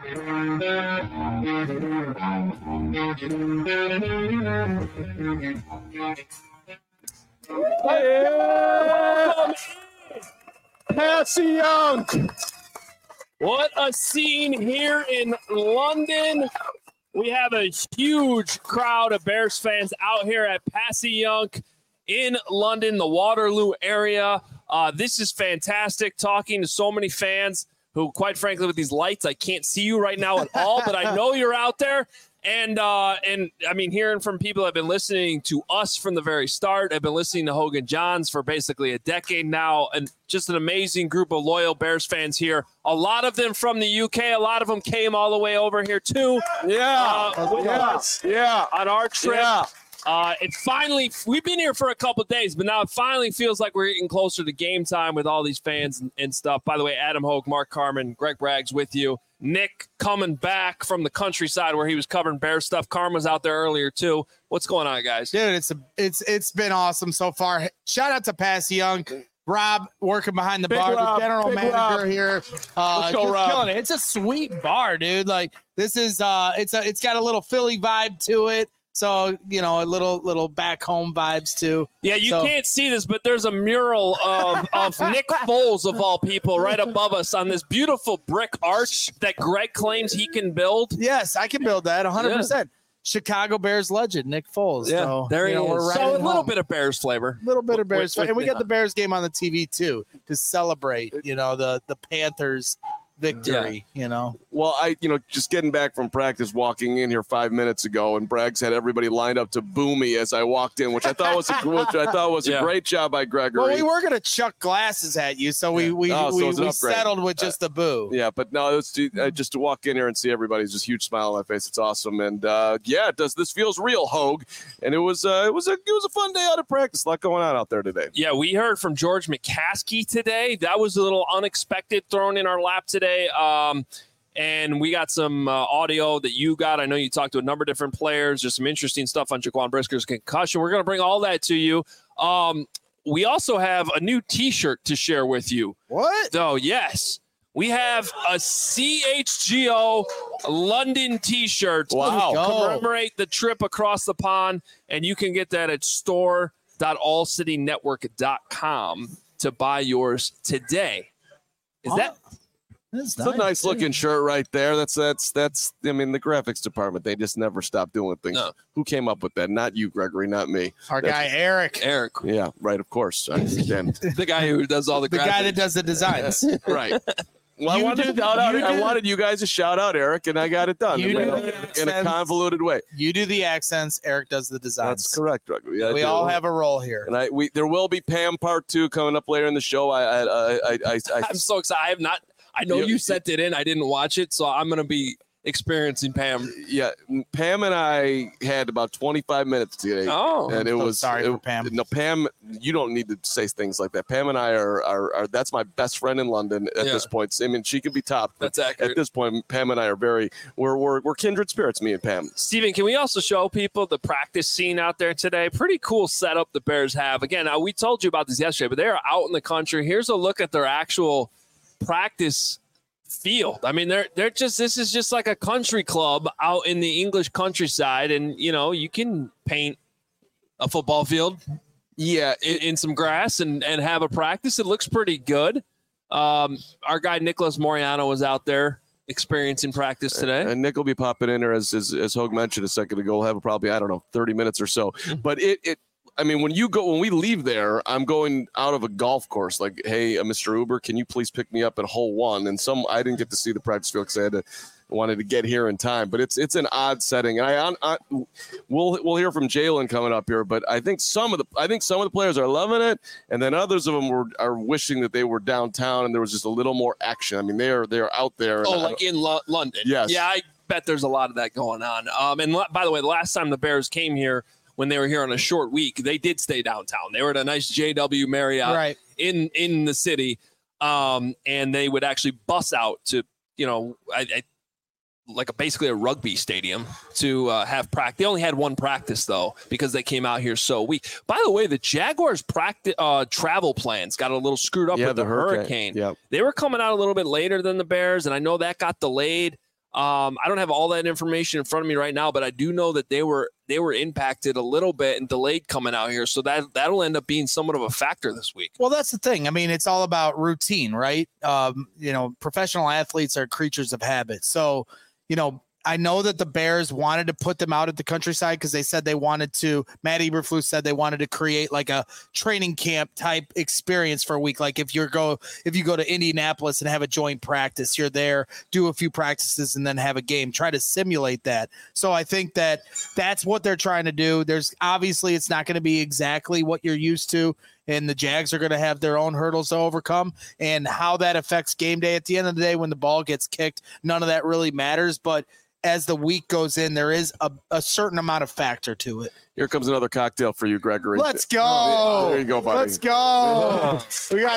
Passy Young. What a scene here in London. We have a huge crowd of Bears fans out here at Passy Young in London, the Waterloo area. This is fantastic, talking to so many fans who, quite frankly, with these lights, I can't see you right now at all, but I know you're out there. And I mean, hearing from people that have been listening to us from the very start. I've been listening to Hogan Johns for basically a decade now, and just an amazing group of loyal Bears fans here. A lot of them from the UK. A lot of them came all the way over here, too. Yeah. On our trip. Yeah. It finally, we've been here for a couple of days, but now it finally feels like we're getting closer to game time with all these fans and stuff. By the way, Adam Hogue, Mark Carman, Greg Braggs with you. Nick coming back from the countryside where he was covering Bear stuff. Carm was out there earlier too. What's going on, guys? Dude, it's been awesome so far. Shout out to Passy Young. Rob working behind the bar, the general manager here. Let's go, Rob. Killing it. It's a sweet bar, dude. Like this is it's got a little Philly vibe to it. So, you know, a little back home vibes too. Yeah, you can't see this, but there's a mural of Nick Foles, of all people, right above us on this beautiful brick arch that Greg claims he can build. Yes, I can build that 100%. Yeah. Chicago Bears legend, Nick Foles. Yeah, so, there he is. So a little bit of Bears flavor. A little bit of Bears flavor. And we got the Bears game on the TV too to celebrate, you know, the Panthers victory, you know. Well, just getting back from practice, walking in here 5 minutes ago, and Braggs had everybody lined up to boo me as I walked in, which I thought was a great job by Gregory. Well, we were gonna chuck glasses at you, so we settled with just the boo. Yeah, but no, it's just to walk in here and see everybody's just huge smile on my face. It's awesome, and this feels real, Hogue, and it was a fun day out of practice. A lot going on out there today. Yeah, we heard from George McCaskey today. That was a little unexpected, thrown in our lap today. And we got some audio that you got. I know you talked to a number of different players. There's some interesting stuff on Jaquan Brisker's concussion. We're going to bring all that to you. We also have a new T-shirt to share with you. What? So, yes. We have a CHGO London T-shirt to commemorate the trip across the pond. And you can get that at store.allcitynetwork.com to buy yours today. It's a nice looking shirt right there. That's I mean, the graphics department, they just never stop doing things. No. Who came up with that? Not you, Gregory, not me. Guy Eric. Yeah, right, of course. I understand. The guy who does all the graphics. The guy that does the designs. Right. Well, I wanted you guys to shout out Eric, and I got it done in a convoluted way. You do the accents. Eric does the designs. That's correct, Gregory. We all have a role here. And there will be Pam Part 2 coming up later in the show. I'm so excited. I know you sent it in. I didn't watch it, so I'm going to be experiencing Pam. Yeah, Pam and I had about 25 minutes today. Oh, and it was sorry for Pam. No, Pam, you don't need to say things like that. Pam and I are that's my best friend in London at this point. I mean, she can be topped. That's accurate. At this point, Pam and I are we're kindred spirits, me and Pam. Steven, can we also show people the practice scene out there today? Pretty cool setup the Bears have. Again, we told you about this yesterday, but they are out in the country. Here's a look at their actual practice field. I mean, this is just like a country club out in the English countryside, and you can paint a football field in some grass and have a practice. It looks pretty good. Our guy Nicholas Moriano was out there experiencing practice today, and Nick will be popping in there as Hogue mentioned a second ago. We'll have probably 30 minutes or so, but I mean, when we leave there, I'm going out of a golf course. Like, hey, Mr. Uber, can you please pick me up at hole 1? And I didn't get to see the practice field because I wanted to get here in time. But it's an odd setting, and we'll hear from Jalen coming up here. But I think some of the players are loving it, and then others of them are wishing that they were downtown and there was just a little more action. I mean, they're out there. Like in London. Yes. Yeah, I bet there's a lot of that going on. And by the way, the last time the Bears came here, when they were here on a short week, they did stay downtown. They were at a nice JW Marriott in the city, and they would actually bus out to, basically a rugby stadium to have practice. They only had one practice, though, because they came out here so weak. By the way, the Jaguars' travel plans got a little screwed up with the hurricane. Yep. They were coming out a little bit later than the Bears, and I know that got delayed. I don't have all that information in front of me right now, but I do know that they were impacted a little bit and delayed coming out here. So that'll end up being somewhat of a factor this week. Well, that's the thing. I mean, it's all about routine, right? Professional athletes are creatures of habit. So, I know that the Bears wanted to put them out at the countryside because they said they wanted to. Matt Eberflus said they wanted to create like a training camp type experience for a week. Like if you go to Indianapolis and have a joint practice, you're there, do a few practices, and then have a game. Try to simulate that. So I think that's what they're trying to do. There's obviously it's not going to be exactly what you're used to. And the Jags are going to have their own hurdles to overcome, and how that affects game day. At the end of the day, when the ball gets kicked, none of that really matters. But as the week goes in, there is a certain amount of factor to it. Here comes another cocktail for you, Gregory. Let's go. There you go, buddy. Let's go. We got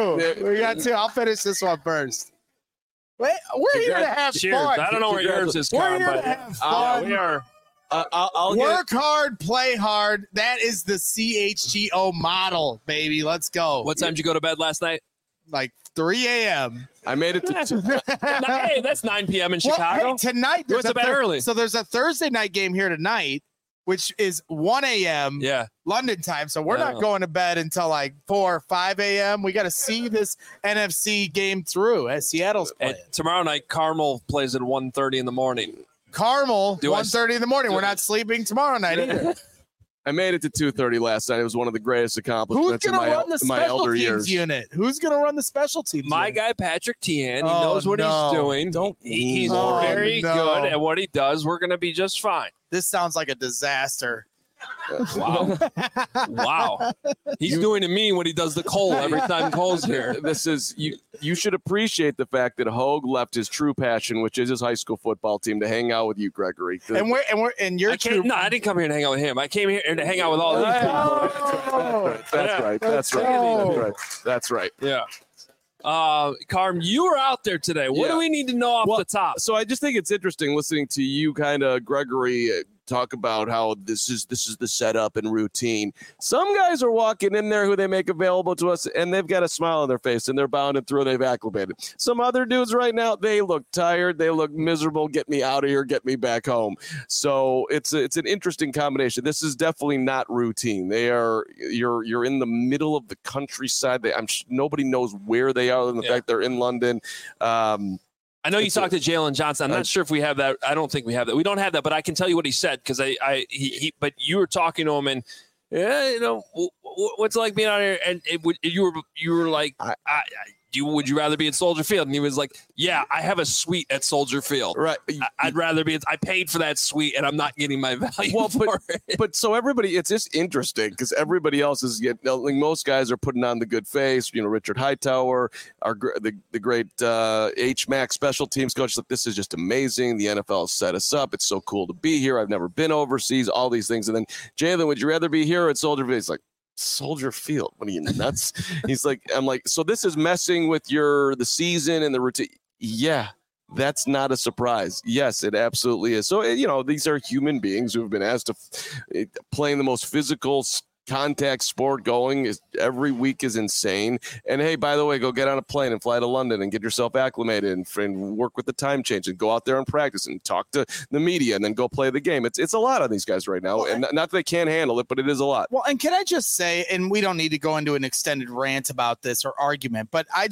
two. I'll finish this one first. Wait, we're here to have Cheers. fun. I don't know where yours is, We're Con, here to but have fun. we are. I'll Work hard, play hard. That is the CHGO model, baby. Let's go. What time did you go to bed last night? Like 3 a.m. I made it to Hey, that's 9 p.m. in Chicago. Well, hey, tonight You went to bed early. So there's a Thursday night game here tonight, which is 1 a.m. Yeah. London time. So we're not going to bed until like 4 or 5 a.m. We got to see this NFC game through as Seattle's playing. And tomorrow night, Carmel plays at 1:30 in the morning. Carmel, 1:30 in the morning. We're not sleeping tomorrow night either. I made it to 2:30 last night. It was one of the greatest Who's accomplishments in going to run the my special elder teams years. unit? Who's going to run the special teams My unit? guy, Patrick Tian, he knows what he's doing. He's very good at what he does. We're going to be just fine. This sounds like a disaster. Wow. Wow. He's doing to me what he does to Cole every time Cole's here. This is you should appreciate the fact that Hogue left his true passion, which is his high school football team, to hang out with you, Gregory. And you're true. No, I didn't come here to hang out with him. I came here to hang out with all these people. That's right. Yeah. Carm, you were out there today. What do we need to know off the top? So I just think it's interesting listening to you, kind of, Gregory, talk about how this is the setup and routine. Some guys are walking in there who they make available to us, and they've got a smile on their face, and they're bounding through. They've acclimated. Some other dudes right now, they look tired. They look miserable. Get me out of here. Get me back home. So it's an interesting combination. This is definitely not routine. You're in the middle of the countryside. Nobody knows where they are, other than the fact they're in London. I know you talked to Jalen Johnson. I'm not sure if we have that. I don't think we have that. We don't have that, but I can tell you what he said because but you were talking to him and what's it like being out here? And you were like, would you rather be at Soldier Field? And he was like, yeah, I have a suite at Soldier Field. Right. I'd rather be. I paid for that suite, and I'm not getting my value for it. But so everybody, it's just interesting because everybody else is most guys are putting on the good face. Richard Hightower, the great H-Mac special teams coach. Like, this is just amazing. The NFL has set us up. It's so cool to be here. I've never been overseas. All these things. And then Jalen, would you rather be here or at Soldier Field? He's like, Soldier Field. What are you nuts? He's like, I'm like, so this is messing with the season and the routine. Yeah, that's not a surprise. Yes, it absolutely is. So, these are human beings who have been asked to playing the most physical contact sport going every week is insane. And hey, by the way, go get on a plane and fly to London and get yourself acclimated and work with the time change and go out there and practice and talk to the media and then go play the game. It's a lot on these guys right now, and not that they can't handle it, but it is a lot. Well, and can I just say, and we don't need to go into an extended rant about this or argument, but I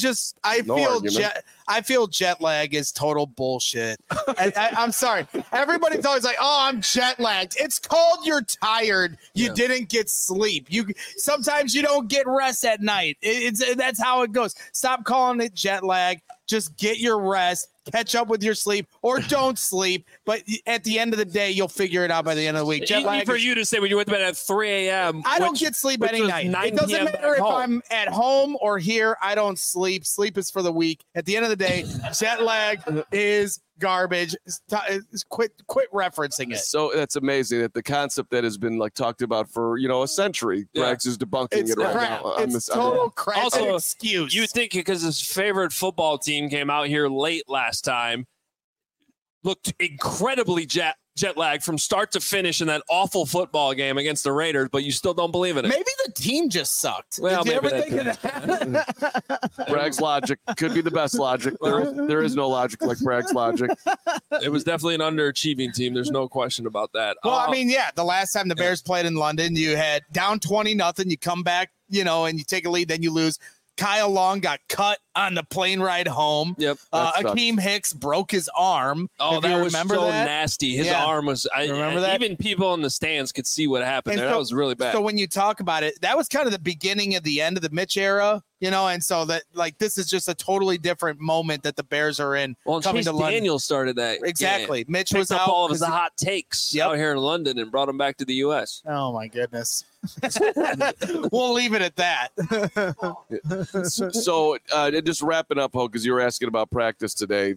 feel jet lag is total bullshit. I'm sorry. Everybody's always like, oh, I'm jet lagged. It's called you're tired. You didn't get sleep. Sometimes you don't get rest at night. That's how it goes. Stop calling it jet lag. Just get your rest, catch up with your sleep, or don't sleep. But at the end of the day, you'll figure it out by the end of the week. Jet lag for you to say when you went to bed at 3 a.m. I don't get sleep any night. It doesn't matter if I'm at home or here. I don't sleep. Sleep is for the weak. At the end of the day, jet lag is garbage. Quit referencing it. So that's amazing that the concept that has been talked about for a century, Greg's is debunking it right now. It's total crap. Also, excuse. You think because his favorite football team came out here late last time, looked incredibly jet jet lag from start to finish in that awful football game against the Raiders, but you still don't believe in it. Maybe the team just sucked. Well, Did you ever maybe think of that? Bragg's logic could be the best logic. There is no logic like Bragg's logic. It was definitely an underachieving team. There's no question about that. Well, I mean, yeah, the last time the Bears played in London, you had down 20-0. You come back, and you take a lead, then you lose. Kyle Long got cut on the plane ride home. Yep. Akeem Hicks broke his arm. Oh, that was so nasty. His arm was. Remember that? Even people in the stands could see what happened there. That was really bad. So when you talk about it, that was kind of the beginning of the end of the Mitch era, and so that this is just a totally different moment that the Bears are in. Well, coming Chase to London. Daniels started that. Exactly. Game. Mitch Picked was up out all of his hot takes out here in London and brought him back to the U.S. Oh my goodness. We'll leave it at that. So just wrapping up, Ho, because you were asking about practice today.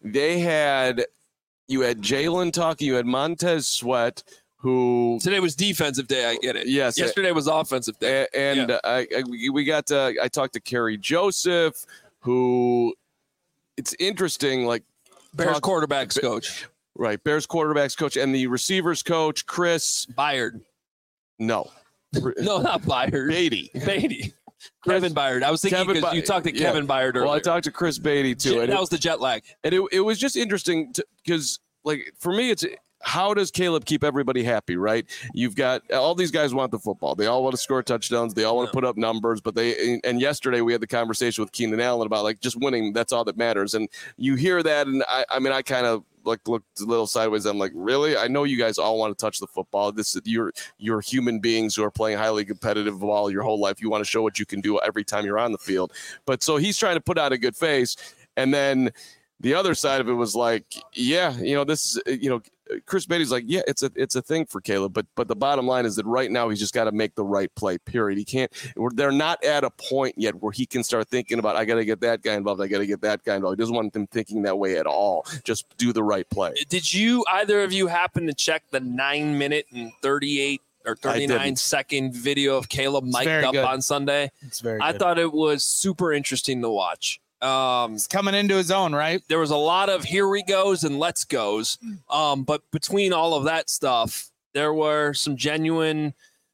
You had Jalen talking, you had Montez Sweat, who today was defensive day. I get it. Yes. Yesterday was offensive day. And I talked to Kerry Joseph, who it's interesting, like Bears quarterbacks coach. Right. Bears quarterbacks coach and the receivers coach, Chris Byard. No. No, not Byard. Beatty. Kevin Byard. I was thinking because you talked to Kevin Byard earlier. Well, I talked to Chris Beatty too. That was the jet lag. And it was just interesting because, like, for me, it's how does Caleb keep everybody happy, right? You've got all these guys want the football. They all want to score touchdowns. They all want to put up numbers. But and yesterday we had the conversation with Keenan Allen about, like, just winning. That's all that matters. And you hear that. And I kind of looked a little sideways. I'm like, really? I know you guys all want to touch the football. You're human beings who are playing highly competitive ball your whole life. You want to show what you can do every time you're on the field. But so he's trying to put out a good face. And then the other side of it was like, yeah, this is, Chris Beatty's like, yeah, it's a thing for Caleb, but the bottom line is that right now he's just got to make the right play, period. He can't. They're not at a point yet where he can start thinking about, I got to get that guy involved. I got to get that guy involved. He doesn't want them thinking that way at all. Just do the right play. Did either of you happen to check the 9-minute and 38 or 39-second video of Caleb mic'd up on Sunday? It's very I good. thought it was super interesting to watch. He's coming into his own, right? There was a lot of here we goes and let's goes. But between all of that stuff, there were some genuine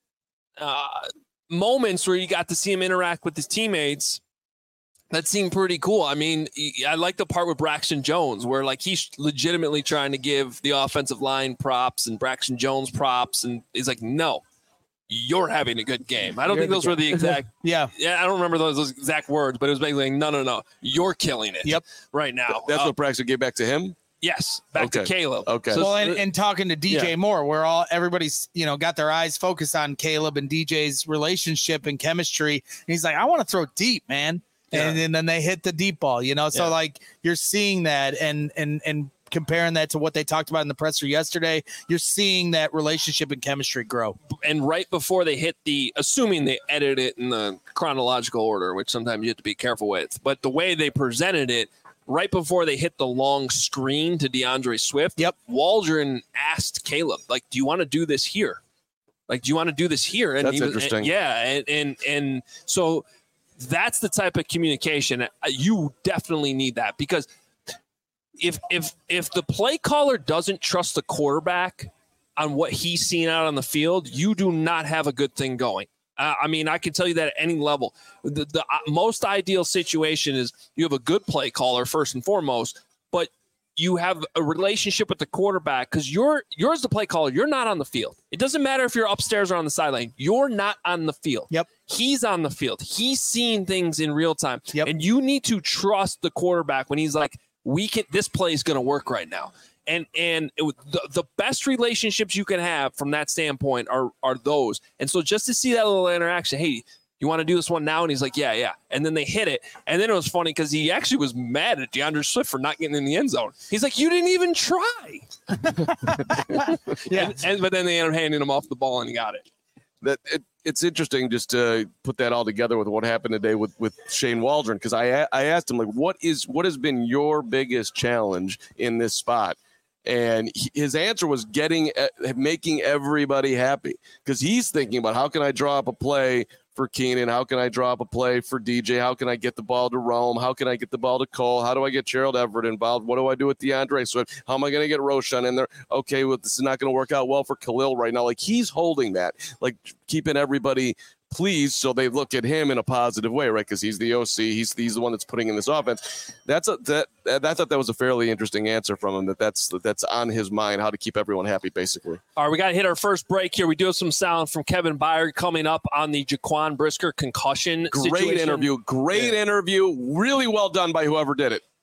moments where you got to see him interact with his teammates. That seemed pretty cool. I mean, I like the part with Braxton Jones where, like, he's legitimately trying to give the offensive line props and Braxton Jones props. And he's like, no, you're having a good game. I don't think those were the exact. Yeah, I don't remember those exact words, but it was basically like, no, you're killing it. Right now. That's what Braxton gave back to him. Yes, back to Caleb. Okay. So, well, and talking to DJ Moore, where everybody's got their eyes focused on Caleb and DJ's relationship and chemistry, and he's like, I want to throw deep, man. And then they hit the deep ball, So like you're seeing that and comparing that to what they talked about in the presser yesterday, you're seeing that relationship and chemistry grow. And right before they hit assuming they edit it in the chronological order, which sometimes you have to be careful with, but the way they presented it, right before they hit the long screen to DeAndre Swift, Waldron asked Caleb, like, do you want to do this here? Like, do you want to do this here? And that's interesting. And so that's the type of communication you definitely need, that because if the play caller doesn't trust the quarterback on what he's seen out on the field, you do not have a good thing going. I mean, I can tell you that at any level. The most ideal situation is you have a good play caller first and foremost, but you have a relationship with the quarterback because you're the play caller. You're not on the field. It doesn't matter if you're upstairs or on the sideline. You're not on the field. Yep. He's on the field. He's seeing things in real time. Yep. And you need to trust the quarterback when he's like, this play is going to work right now. And the best relationships you can have from that standpoint are those. And so just to see that little interaction, hey, you want to do this one now? And he's like, yeah. And then they hit it. And then it was funny because he actually was mad at DeAndre Swift for not getting in the end zone. He's like, you didn't even try. But then they ended up handing him off the ball and he got it. It's interesting just to put that all together with what happened today with Shane Waldron, because I asked him, like, what has been your biggest challenge in this spot? And his answer was making everybody happy, because he's thinking about how can I draw up a play for Keenan? How can I draw up a play for DJ? How can I get the ball to Rome? How can I get the ball to Cole? How do I get Gerald Everett involved? What do I do with DeAndre Swift? How am I going to get Roshan in there? Okay, well, this is not going to work out well for Khalil right now. Like, he's holding that, like keeping everybody pleased so they look at him in a positive way, right? Because he's the OC. He's the one that's putting in this offense. I thought that was a fairly interesting answer from him, that's on his mind, how to keep everyone happy, basically. All right, we got to hit our first break here. We do have some sound from Kevin Byard coming up on the Jaquan Brisker concussion situation. Great interview. Really well done by whoever did it.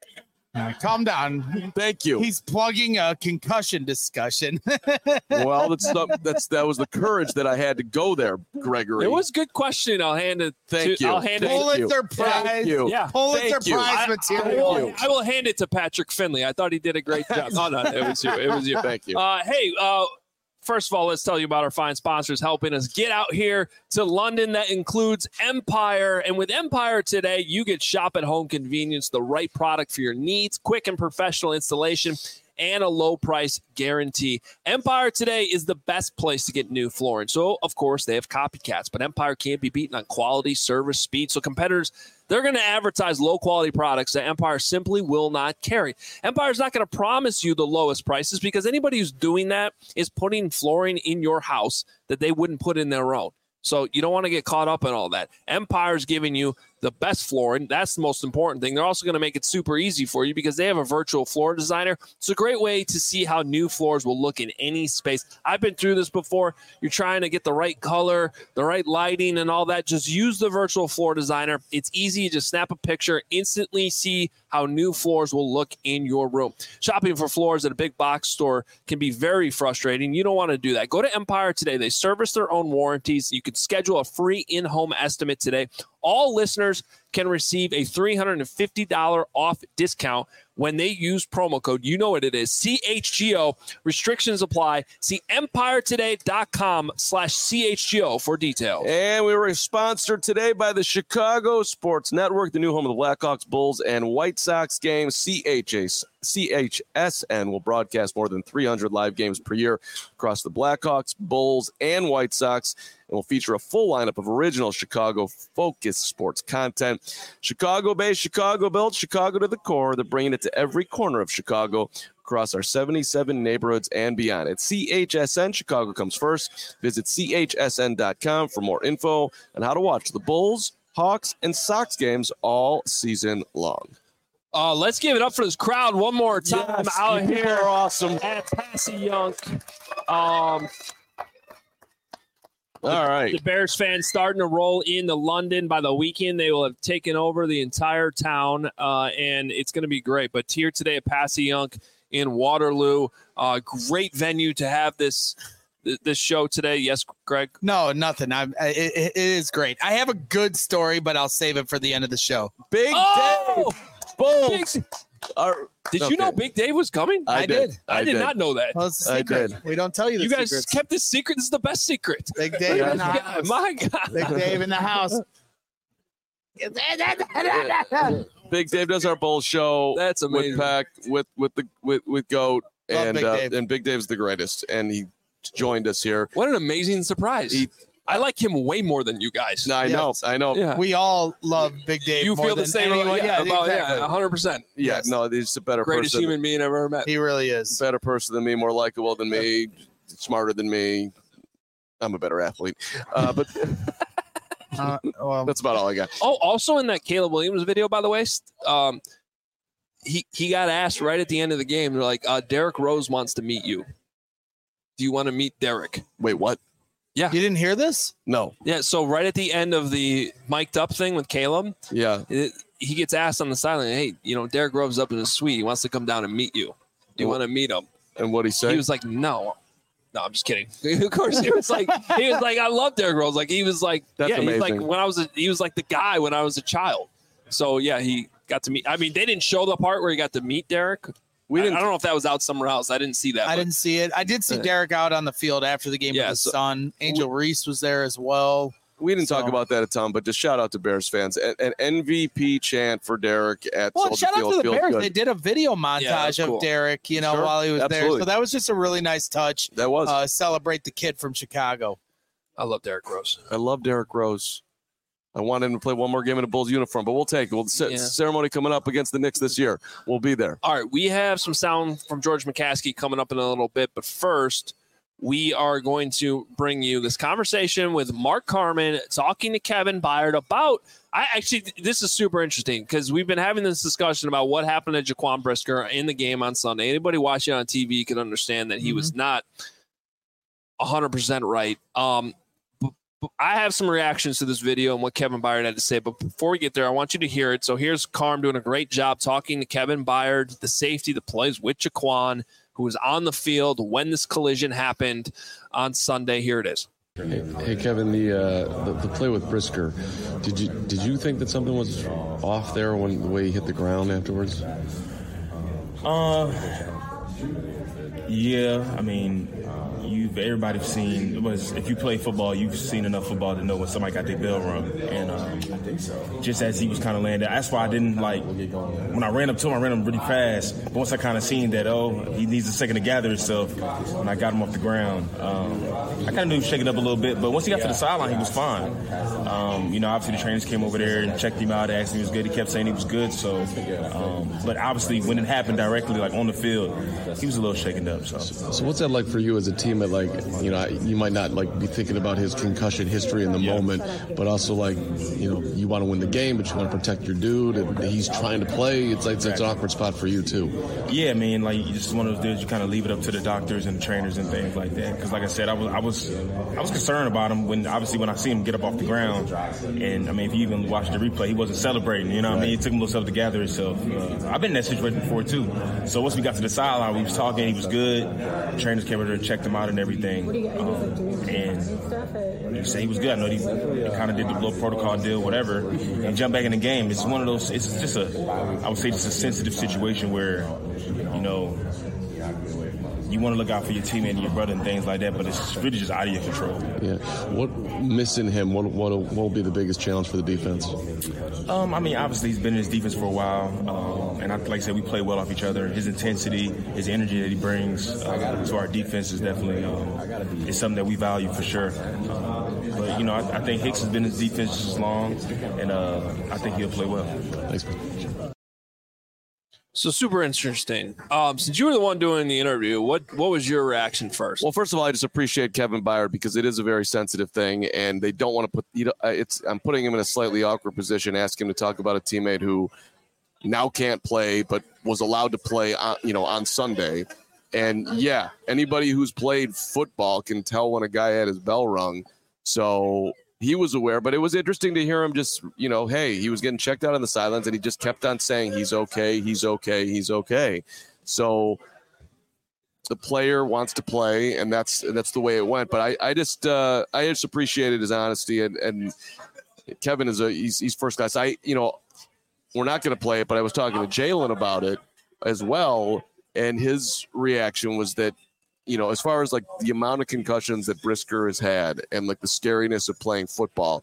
Calm down. Thank you. He's plugging a concussion discussion. Well, that was the courage that I had to go there, Gregory. It was a good question. I'll hand it. Thank you. I'll hand it. Pulitzer Prize. Thank you. Yeah. Pulitzer Prize material. I will hand it to Patrick Finley. I thought he did a great job. Oh no, it was you. It was you. Thank you. Hey. First of all, let's tell you about our fine sponsors helping us get out here to London. That includes Empire. And with Empire today, you get shop at home convenience, the right product for your needs, quick and professional installation, and a low price guarantee. Empire today is the best place to get new flooring. So, of course, they have copycats, but Empire can't be beaten on quality, service, speed. So competitors, they're going to advertise low-quality products that Empire simply will not carry. Empire's not going to promise you the lowest prices because anybody who's doing that is putting flooring in your house that they wouldn't put in their own. So you don't want to get caught up in all that. Empire's giving you the best flooring. That's the most important thing. They're also going to make it super easy for you because they have a virtual floor designer. It's a great way to see how new floors will look in any space. I've been through this before. You're trying to get the right color, the right lighting, and all that. Just use the virtual floor designer. It's easy. You just snap a picture, instantly see how new floors will look in your room. Shopping for floors at a big box store can be very frustrating. You don't want to do that. Go to Empire today. They service their own warranties. You could schedule a free in-home estimate today. All listeners can receive a $350 off discount when they use promo code. You know what it is. CHGO. Restrictions apply. See EmpireToday.com/CHGO for details. And we were sponsored today by the Chicago Sports Network, the new home of the Blackhawks, Bulls, and White Sox games. CHSN will broadcast more than 300 live games per year across the Blackhawks, Bulls, and White Sox, and will feature a full lineup of original Chicago-focused sports content. Chicago-based, Chicago-built, Chicago to the core. They're bringing it to every corner of Chicago across our 77 neighborhoods and beyond. At CHSN, Chicago comes first. Visit CHSN.com for more info on how to watch the Bulls, Hawks, and Sox games all season long. Let's give it up for this crowd one more time out here. Are awesome. At Passy Young. All right. The Bears fans starting to roll into London. By the weekend, they will have taken over the entire town, and it's going to be great. But here today at Passy Young in Waterloo, great venue to have this show today. Yes, Greg? No, nothing. It is great. I have a good story, but I'll save it for the end of the show. Big Dave. Boom. Did you know Big Dave was coming? I did. I did not know that. Well, it's a secret. We don't tell you the You guys secrets. kept this secret. This is the best secret. Big Dave in the house. My God. Big Dave in the house. Big Dave does our Bulls show. That's amazing. With Peck, with Goat, Love Big Dave. and Big Dave's the greatest. And he joined us here. What an amazing surprise. I like him way more than you guys. No, I know. Yeah. We all love Big Dave. You more feel the than same anyone. way? Exactly. 100%. Yeah, Yes. no, he's a better Greatest person. human being I've ever met. He really is. Better person than me, more likable than me, smarter than me. I'm a better athlete. But Well, that's about all I got. Oh, also in that Caleb Williams video, by the way, he got asked right at the end of the game. They're like, Derrick Rose wants to meet you. Do you want to meet Derrick? Wait, what? Yeah. you didn't hear this? No. Yeah, so right at the end of the mic'd up thing with Caleb, Yeah. he gets asked on the sideline, hey, Derrick Rose up in his suite. He wants to come down and meet you. Do you want to meet him? And what'd he say? He was like, no. No, I'm just kidding. Of course, he was like, I love Derrick Rose. Like, he was like, That's yeah, he's like amazing. he was like the guy when I was a child. So yeah, he got to meet. I mean, they didn't show the part where he got to meet Derrick. I don't know if that was out somewhere else. I didn't see that. I didn't see it. I did see Derrick out on the field after the game with his son. Angel Reese was there as well. We didn't talk about that a ton, but just shout out to Bears fans. An MVP chant for Derrick at Well, Soldier shout out Field to the feels Bears. good. They did a video montage cool. of Derrick, Sure. while he was there. Absolutely. So that was just a really nice touch. That was. Celebrate the kid from Chicago. I love Derrick Rose. I love Derrick Rose. I want him to play one more game in a Bulls uniform, but we'll take it. Ceremony coming up against the Knicks this year. We'll be there. All right, we have some sound from George McCaskey coming up in a little bit, but first, we are going to bring you this conversation with Mark Carman talking to Kevin Byard about this is super interesting because we've been having this discussion about what happened to Jaquan Brisker in the game on Sunday. Anybody watching on TV can understand that he was not 100% right. I have some reactions to this video and what Kevin Byard had to say, but before we get there, I want you to hear it. So here's Carm doing a great job talking to Kevin Byard, the safety that plays with Jaquan, who was on the field when this collision happened on Sunday. Here it is. Hey Kevin, the play with Brisker, did you think that something was off there when the way he hit the ground afterwards? Yeah, I mean, everybody's seen, if you play football, you've seen enough football to know when somebody got their bell rung. And just as he was kind of laying there, that's why I didn't when I ran up to him, I ran him really fast. But once I kind of seen that, he needs a second to gather himself, when I got him off the ground, I kind of knew he was shaking up a little bit. But once he got to the sideline, he was fine. Obviously the trainers came over there and checked him out, asked him if he was good. He kept saying he was good. So, but obviously when it happened directly, on the field, he was a little shaken up. So what's that like for you as a team that you might not be thinking about his concussion history in the moment, but also you want to win the game, but you want to protect your dude, and he's trying to play. It's an awkward spot for you too. Yeah, man. You just one of those dudes. You kind of leave it up to the doctors and the trainers and things like that. Because like I said, I was concerned about him when I see him get up off the ground, and if you even watch the replay, he wasn't celebrating. You know what I mean? It took him a little stuff to gather himself. I've been in that situation before too. So once we got to the sideline, we was talking. He was good. The trainers came over there and checked him out and everything. And he said he was good. I know he kind of did the little protocol deal, whatever, and jumped back in the game. It's one of those. It's just I would say, just a sensitive situation where, you want to look out for your teammate and your brother and things like that, but it's really just out of your control. Yeah. What missing him? What will be the biggest challenge for the defense? Obviously he's been in his defense for a while, and like I said, we play well off each other. His intensity, his energy that he brings to our defense is definitely is something that we value for sure. But I think Hicks has been in his defense just as long, and I think he'll play well. Thanks. So super interesting. Since you were the one doing the interview, what was your reaction first? Well, first of all, I just appreciate Kevin Byard because it is a very sensitive thing, and they don't want to put. I'm putting him in a slightly awkward position, asking him to talk about a teammate who now can't play, but was allowed to play, on Sunday. And yeah, anybody who's played football can tell when a guy had his bell rung. So he was aware, but it was interesting to hear him just, hey, he was getting checked out on the sidelines, and he just kept on saying, he's okay, he's okay, he's okay. So the player wants to play, and that's the way it went. But I just appreciated his honesty, and Kevin he's first class. We're not going to play it, but I was talking to Jalen about it as well, and his reaction was that, as far as the amount of concussions that Brisker has had and the scariness of playing football,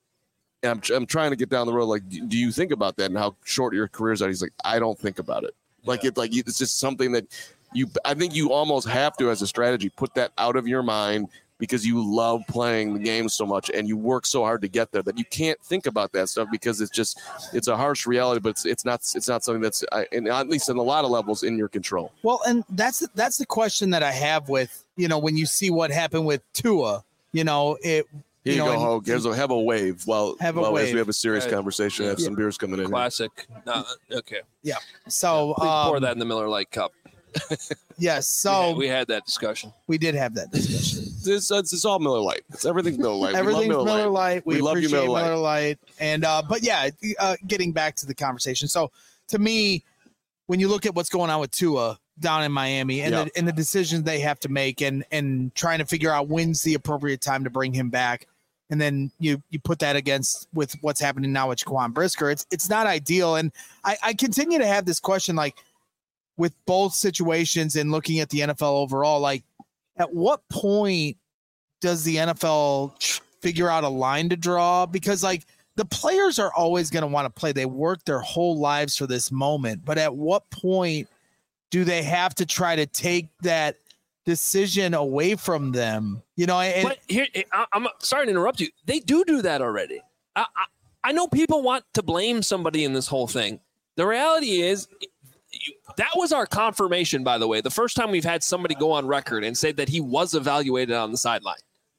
and I'm trying to get down the road. Do you think about that and how short your careers are? He's like, I don't think about it. It's just something that I think you almost have to, as a strategy, put that out of your mind because you love playing the game so much and you work so hard to get there that you can't think about that stuff because it's a harsh reality, but it's not something that's, at least in a lot of levels, in your control. Well, and that's the question that I have with, when you see what happened with Tua, Here you go, Hogue. Have a wave. As we have a serious conversation, have some beers coming in. Classic. Okay. Yeah. So pour that in the Miller Lite cup. Yes. So we had that discussion. We did have that discussion. It's all Miller Lite. Everything's Miller Lite. Everything's Miller Lite. We love you, Miller Lite. And but yeah, getting back to the conversation. So to me, when you look at what's going on with Tua down in Miami and the decisions they have to make and trying to figure out when's the appropriate time to bring him back. And then you put that against with what's happening now with Jaquan Brisker. It's not ideal. And I continue to have this question, with both situations and looking at the NFL overall, at what point does the NFL figure out a line to draw? Because the players are always going to want to play. They work their whole lives for this moment. But at what point do they have to try to take that decision away from them. But here, I'm sorry to interrupt you. They do that already. I know people want to blame somebody in this whole thing. The reality is that was our confirmation, by the way. The first time we've had somebody go on record and say that he was evaluated on the sideline.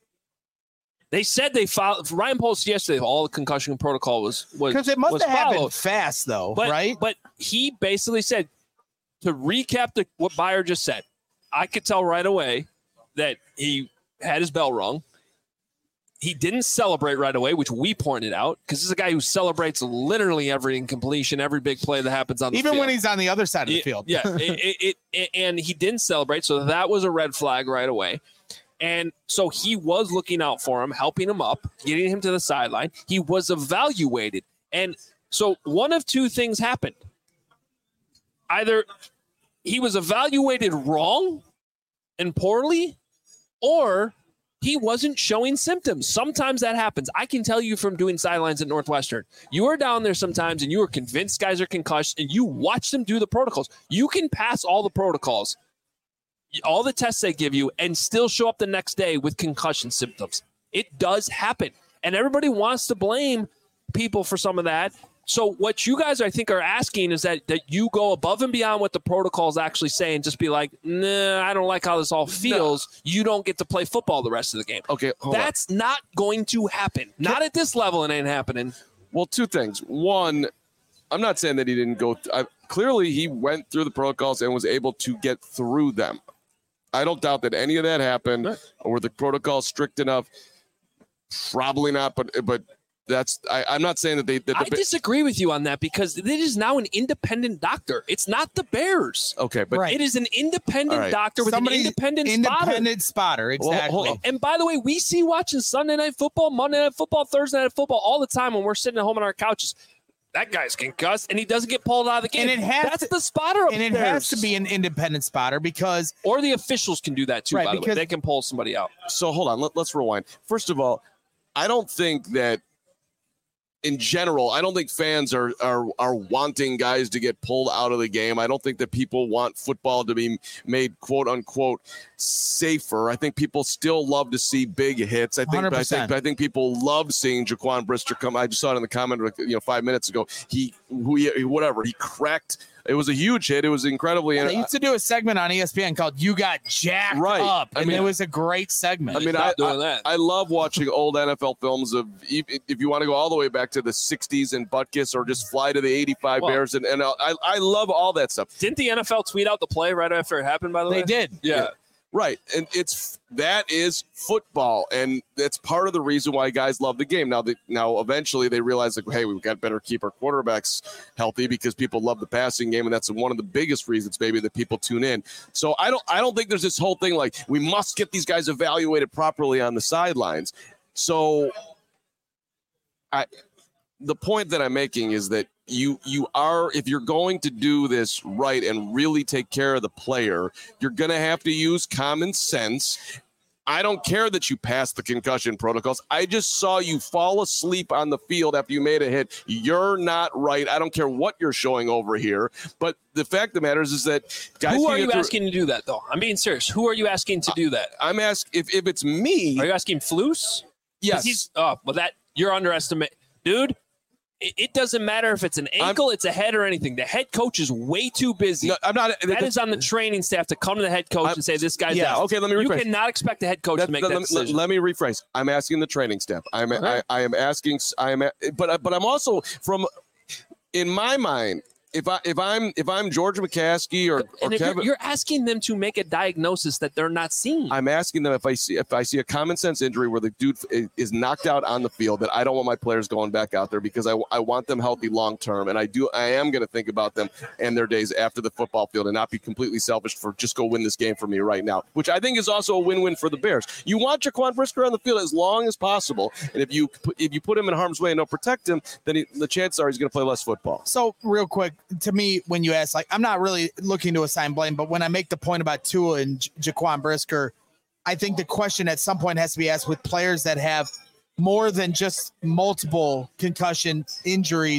They said they filed. Ryan Poles yesterday, all the concussion protocol was because it must have happened fast, though, right? But he basically said, to recap what Beyer just said, I could tell right away that he had his bell rung. He didn't celebrate right away, which we pointed out, because this is a guy who celebrates literally every incompletion, every big play that happens on the field. Even when he's on the other side of the field. Yeah, and he didn't celebrate, so that was a red flag right away. And so he was looking out for him, helping him up, getting him to the sideline. He was evaluated. And so one of two things happened. Either he was evaluated wrong and poorly, or he wasn't showing symptoms. Sometimes that happens. I can tell you from doing sidelines at Northwestern. You are down there sometimes and you are convinced guys are concussed and you watch them do the protocols. You can pass all the protocols, all the tests they give you, and still show up the next day with concussion symptoms. It does happen. And everybody wants to blame people for some of that. So what you guys, I think, are asking is that you go above and beyond what the protocols actually say and just be like, nah, I don't like how this all feels. No. You don't get to play football the rest of the game. Okay, that's not going to happen. Not at this level, it ain't happening. Well, two things. One, I'm not saying that he didn't go. Clearly, he went through the protocols and was able to get through them. I don't doubt that any of that happened. Right. Or were the protocols strict enough? Probably not, but that's I'm not saying that I disagree with you on that, because it is now an independent doctor. It's not the Bears. Okay, but it is an independent doctor with an independent spotter. Exactly. Well, and by the way, we see watching Sunday Night Football, Monday Night Football, Thursday Night Football all the time when we're sitting at home on our couches. That guy's concussed, and he doesn't get pulled out of the game. And that's the spotter upstairs. And it has to be an independent spotter because... Or the officials can do that too, by the way. They can pull somebody out. So hold on. Let's rewind. First of all, I don't think that in general, I don't think fans are wanting guys to get pulled out of the game. I don't think that people want football to be made, quote unquote, safer. I think people still love to see big hits. I think people love seeing Jaquan Brisker come. I just saw it in the comment, 5 minutes ago. He cracked. It was a huge hit. It was incredibly. They used to do a segment on ESPN called "You Got Jacked Up," and it was a great segment. I mean, I love watching old NFL films of, if you want to go all the way back to the '60s and Butkus, or just fly to the '85 Bears, and I love all that stuff. Didn't the NFL tweet out the play right after it happened? By the way, they did. Yeah. Right, and that is football, and that's part of the reason why guys love the game. Now, eventually they realize, like, hey, we've got better keep our quarterbacks healthy because people love the passing game, and that's one of the biggest reasons maybe that people tune in. So I don't think there's this whole thing like we must get these guys evaluated properly on the sidelines. So the point that I'm making is that you are, if you're going to do this right and really take care of the player, you're going to have to use common sense. I don't care that you passed the concussion protocols. I just saw you fall asleep on the field after you made a hit. You're not right. I don't care what you're showing over here. But the fact of the matter is that guys. Who are you asking to do that, though? I'm being serious. Who are you asking to do that? I'm asking if it's me. Are you asking Flus? Yes. You're underestimating, dude. It doesn't matter if it's an ankle, it's a head, or anything. The head coach is way too busy. No, I'm not. That is on the training staff to come to the head coach and say, this guy's out. Okay, let me rephrase. You cannot expect the head coach to make that decision. Let me rephrase. I'm asking the training staff. I am asking. But I'm also in my mind. If I'm George McCaskey or Kevin, you're asking them to make a diagnosis that they're not seeing. I'm asking them if I see a common sense injury where the dude is knocked out on the field, that I don't want my players going back out there because I want them healthy long term, and I am going to think about them and their days after the football field and not be completely selfish for just go win this game for me right now, which I think is also a win-win for the Bears. You want Jaquan Brisker on the field as long as possible, and if you put him in harm's way and don't protect him, then the chances are he's going to play less football. So real quick. To me, when you ask, like, I'm not really looking to assign blame, but when I make the point about Tua and Jaquan Brisker, I think the question at some point has to be asked with players that have more than just multiple concussion injuries.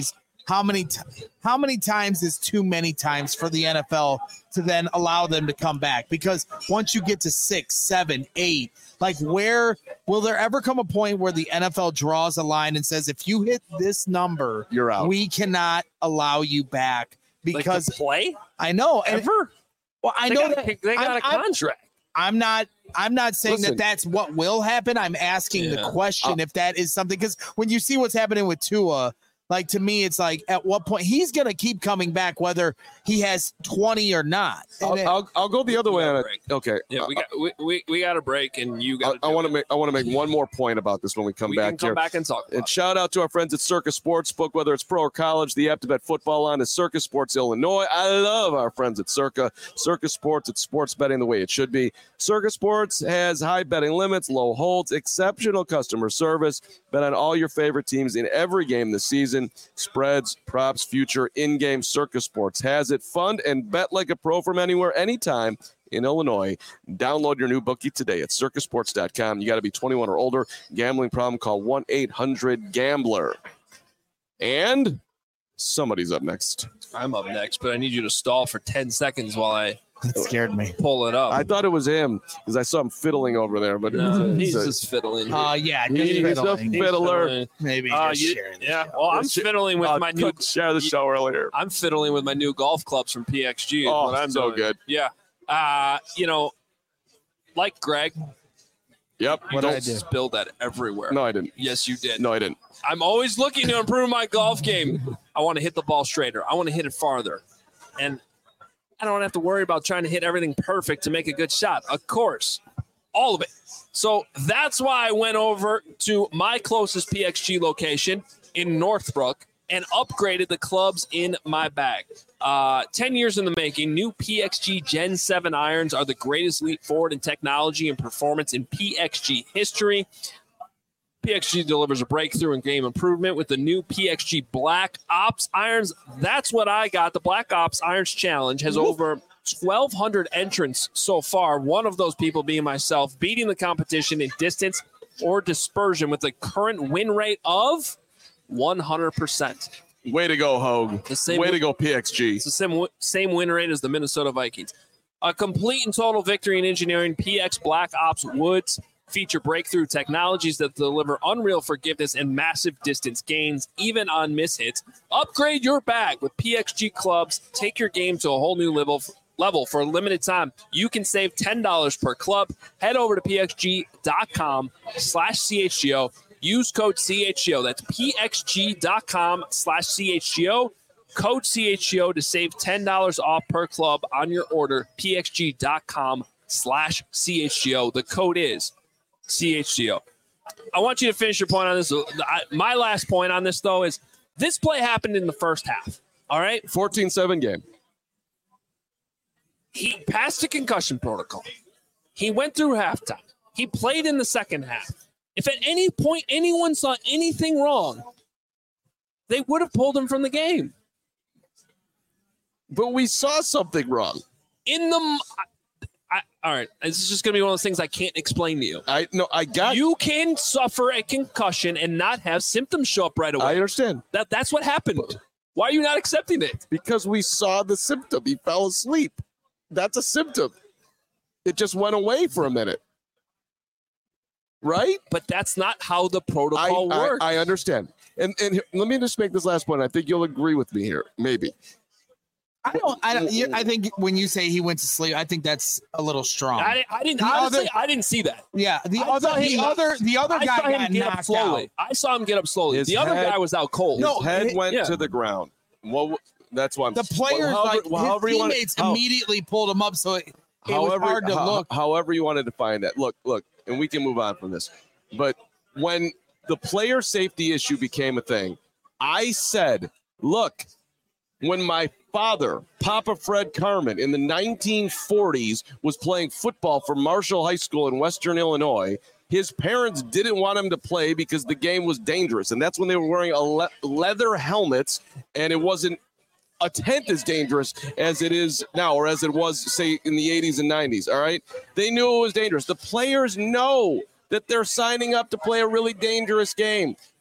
how many times is too many times for the NFL to then allow them to come back? Because once you get to 6, 7, 8, like where will there ever come a point where the NFL draws a line and says, if you hit this number, you're out. We cannot allow you back because like play. I know ever. Well, I they know got they got a contract. I'm not saying Listen, that's what will happen. I'm asking the question if that is something, because when you see what's happening with Tua, like to me, it's like at what point he's going to keep coming back, whether he has 20 or not. I'll go the other way on it. Okay. Yeah, we got a break, and you got. I want to make one more point about this when we come back. We can come back and talk. And shout out to our friends at Circus Sportsbook, whether it's pro or college. The app to bet football on is Circus Sports Illinois. I love our friends at Circa. Circus Sports, it's sports betting the way it should be. Circus Sports has high betting limits, low holds, exceptional customer service. Bet on all your favorite teams in every game this season. Spreads, props, future, in-game. Circus Sports has it. Fund and bet like a pro from anywhere, anytime in Illinois. Download your new bookie today at circusports.com. You got to be 21 or older. Gambling problem, call 1-800-GAMBLER. And somebody's up next. I'm up next, but I need you to stall for 10 seconds while I that scared me. Pull it up. I thought it was him because I saw him fiddling over there, but he's just fiddling. Yeah, he's a fiddler. Maybe I'm fiddling with my new share the show earlier. I'm fiddling with my new golf clubs from PXG. Oh, I'm so good. Yeah, like Greg. Yep. You don't spill that everywhere. No, I didn't. Yes, you did. No, I didn't. I'm always looking to improve my golf game. I want to hit the ball straighter. I want to hit it farther, and I don't have to worry about trying to hit everything perfect to make a good shot. Of course, all of it. So that's why I went over to my closest PXG location in Northbrook and upgraded the clubs in my bag. 10 years in the making, new PXG Gen 7 irons are the greatest leap forward in technology and performance in PXG history. PXG delivers a breakthrough in game improvement with the new PXG Black Ops irons. That's what I got. The Black Ops Irons Challenge has over 1,200 entrants so far, one of those people being myself, beating the competition in distance or dispersion with a current win rate of 100%. Way to go, Hogue. Way to go, PXG. It's the same win rate as the Minnesota Vikings. A complete and total victory in engineering, PX Black Ops Woods feature breakthrough technologies that deliver unreal forgiveness and massive distance gains, even on mishits. Upgrade your bag with PXG clubs. Take your game to a whole new level for a limited time. You can save $10 per club. Head over to pxg.com/CHGO. Use code CHGO. That's pxg.com/CHGO. Code CHGO to save $10 off per club on your order. pxg.com/CHGO. The code is CHGO. I want you to finish your point on this. My last point on this, though, is this play happened in the first half. All right? 14-7 game. He passed a concussion protocol. He went through halftime. He played in the second half. If at any point anyone saw anything wrong, they would have pulled him from the game. But we saw something wrong. All right, this is just going to be one of those things I can't explain to you. You can suffer a concussion and not have symptoms show up right away. I understand. That's what happened. Why are you not accepting it? Because we saw the symptom. He fell asleep. That's a symptom. It just went away for a minute. Right? But that's not how the protocol works. I understand. And let me just make this last point. I think you'll agree with me here. Maybe. I think when you say he went to sleep, I think that's a little strong. I didn't see that. Yeah, the other guy got knocked out. I saw him get up slowly. The other guy was out cold. His head went to the ground. Well, that's why the players his teammates immediately pulled him up, so it was hard to look. However you want to define that. Look, and we can move on from this. But when the player safety issue became a thing, I said, look, when my father, Papa Fred Carmen, in the 1940s was playing football for Marshall High School in Western Illinois, his parents didn't want him to play because the game was dangerous. And that's when they were wearing leather helmets, and it wasn't a tenth as dangerous as it is now, or as it was, say, in the 80s and 90s, all right? They knew it was dangerous. The players know that they're signing up to play a really dangerous game.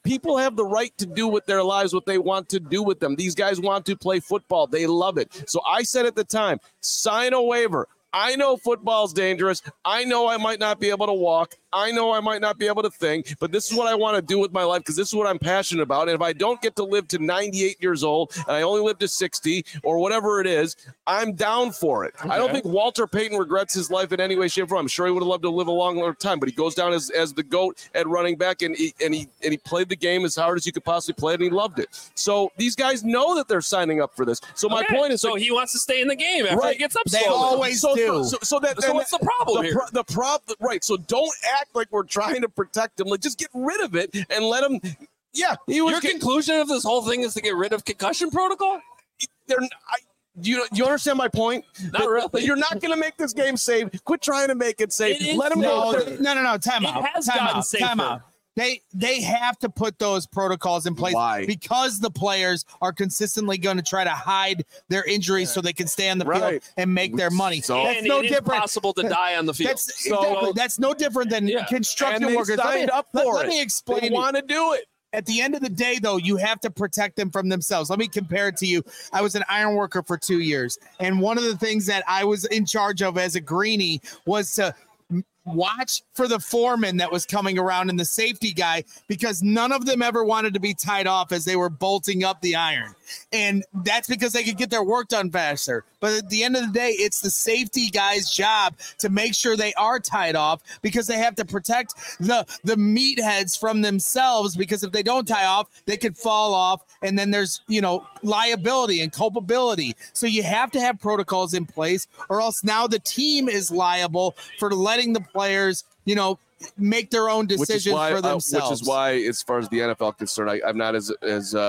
people have the right to do with their lives what they want to do with them. These guys want to play football. They love it. So I said at the time, sign a waiver. I know football's dangerous. I know I might not be able to walk. I know I might not be able to think, but this is what I want to do with my life because this is what I'm passionate about. And if I don't get to live to 98 years old and I only live to 60 or whatever it is, I'm down for it. Okay. I don't think Walter Payton regrets his life in any way, shape, or form. I'm sure he would have loved to live a longer time, but he goes down as the GOAT at running back, and he played the game as hard as you could possibly play it, and he loved it. So these guys know that they're signing up for this. So my point is, so he wants to stay in the game after he gets up. They always do. So what's the problem here? The problem, right? So don't act like we're trying to protect him. Like, just get rid of it and let him. Yeah, Your conclusion of this whole thing is to get rid of concussion protocol? Do you understand my point? Not really. You're not going to make this game safe. Quit trying to make it safe. Let them go. No. Time out. It has gotten safer. Time out. They have to put those protocols in place. Why? Because the players are consistently going to try to hide their injuries so they can stay on the field and make their money. So that's no different. It's possible to die on the field. That's no different than construction workers. Let me explain. They want to do it. At the end of the day, though, you have to protect them from themselves. Let me compare it to you. I was an iron worker for 2 years, and one of the things that I was in charge of as a greenie was to watch for the foreman that was coming around and the safety guy, because none of them ever wanted to be tied off as they were bolting up the iron. And that's because they could get their work done faster. But at the end of the day, it's the safety guy's job to make sure they are tied off, because they have to protect the meatheads from themselves, because if they don't tie off, they could fall off. And then there's, liability and culpability. So you have to have protocols in place, or else now the team is liable for letting the players, make their own decisions for themselves. Which is why, as far as the NFL is concerned, I'm not as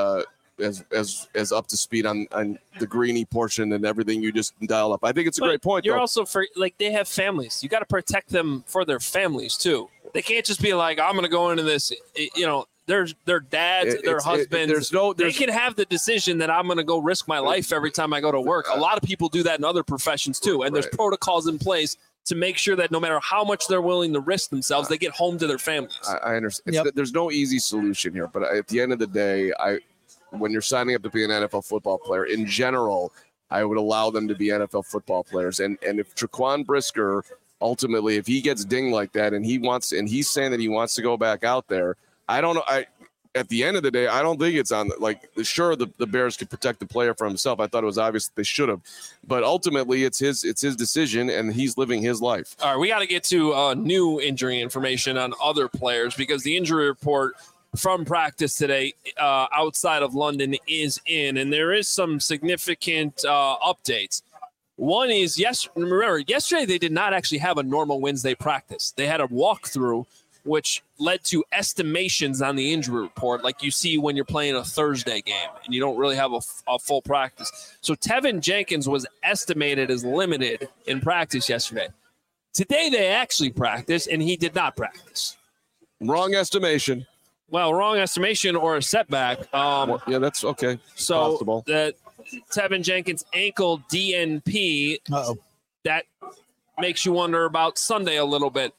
up to speed on the greenie portion and everything you just dial up. I think it's a great point. You're also they have families. You got to protect them for their families too. They can't just be like, I'm going to go into this. Their dads, their husbands. They can have the decision that I'm going to go risk my life every time I go to work. A lot of people do that in other professions too, and there's protocols in place to make sure that no matter how much they're willing to risk themselves, they get home to their families. I understand. There's no easy solution here, but at the end of the day, when you're signing up to be an NFL football player, in general, I would allow them to be NFL football players. And if Jaquan Brisker, ultimately, if he gets dinged like that and he's saying that he wants to go back out there, I don't know. At the end of the day, I don't think it's on. Sure, the Bears could protect the player for himself. I thought it was obvious that they should have, but ultimately, it's his decision, and he's living his life. All right, we got to get to new injury information on other players, because the injury report from practice today outside of London is in, and there is some significant updates. One is, yesterday they did not actually have a normal Wednesday practice. They had a walkthrough, which led to estimations on the injury report, like you see when you're playing a Thursday game and you don't really have a full practice. So Tevin Jenkins was estimated as limited in practice yesterday. Today they actually practiced, and he did not practice. Wrong estimation. Well, wrong estimation or a setback. That's okay. So possible. The Tevin Jenkins ankle DNP, that makes you wonder about Sunday a little bit.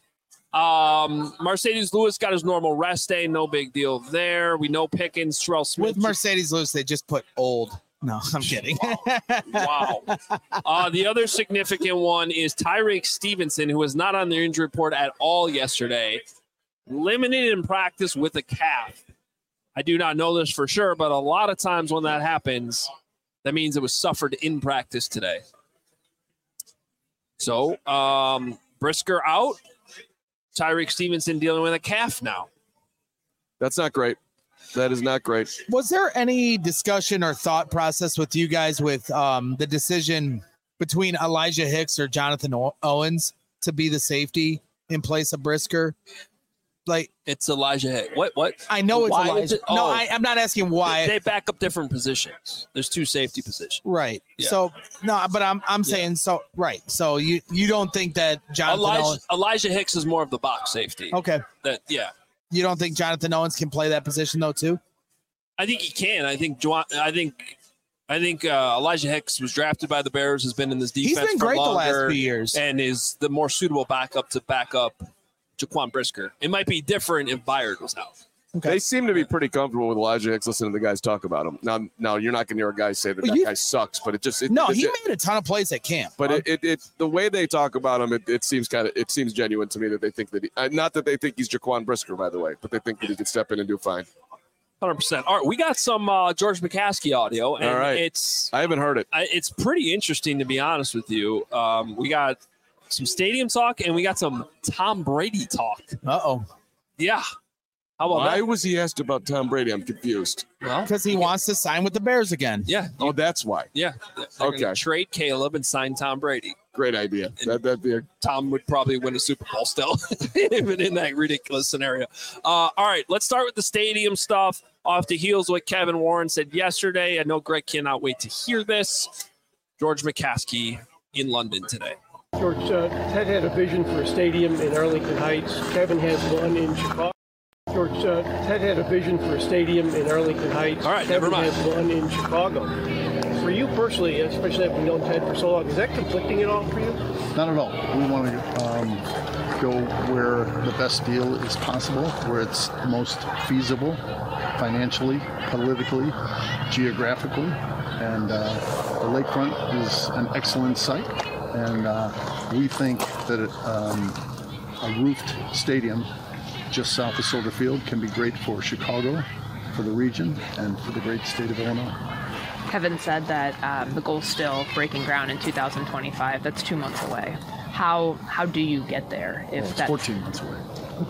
Mercedes Lewis got his normal rest day. No big deal there. We know Pickens, Terrell Smith. With Mercedes Lewis, they just put old. No, I'm kidding. Wow. The other significant one is Tyreek Stevenson, who was not on the injury report at all yesterday. Limited in practice with a calf. I do not know this for sure, but a lot of times when that happens, that means it was suffered in practice today. So, Brisker out. Tyreek Stevenson dealing with a calf now. That's not great. That is not great. Was there any discussion or thought process with you guys with the decision between Elijah Hicks or Jonathan Owens to be the safety in place of Brisker? It's Elijah Hicks. What? I know it's Elijah. I'm not asking why. They back up different positions. There's two safety positions. Right. Yeah. So but I'm saying so. Right. So you don't think that Elijah Hicks is more of the box safety. Okay. You don't think Jonathan Owens can play that position though too? I think he can. I think Elijah Hicks was drafted by the Bears, has been in this defense. He's been great the last few years, and is the more suitable backup to back up Jaquan Brisker. It might be different if Byard was out. They seem to be pretty comfortable with Elijah Hicks listening to the guys talk about him. Now you're not going to hear a guy say that guy sucks, but he made a ton of plays at camp. But it the way they talk about him, it seems genuine to me that they think that not that they think he's Jaquan Brisker, by the way, but they think that he could step in and do fine. 100%. All right, we got some George McCaskey audio, and all right. I haven't heard it. It's pretty interesting, to be honest with you. We got some stadium talk, and we got some Tom Brady talk. Uh-oh. Yeah. How about Why that? was he asked about Tom Brady? I'm confused. Well, because he wants to sign with the Bears again. Yeah. Oh, that's why. Yeah. Okay. Trade Caleb and sign Tom Brady. Great idea. That'd be Tom would probably win a Super Bowl still, even in that ridiculous scenario. All right, let's start with the stadium stuff. Off the heels of what Kevin Warren said yesterday. I know Greg cannot wait to hear this. George McCaskey in London today. George, Ted had a vision for a stadium in Arlington Heights. Kevin has one in Chicago. George, Ted had a vision for a stadium in Arlington Heights. All right, Kevin never mind. has one in Chicago. For you personally, especially having known Ted for so long, is that conflicting at all for you? Not at all. We want to go where the best deal is possible, where it's most feasible financially, politically, geographically. And the lakefront is an excellent site. And we think that a roofed stadium just south of Soldier Field can be great for Chicago, for the region, and for the great state of Illinois. Kevin said that the goal's still breaking ground in 2025. That's 2 months away. How do you get there? It's 14 months away.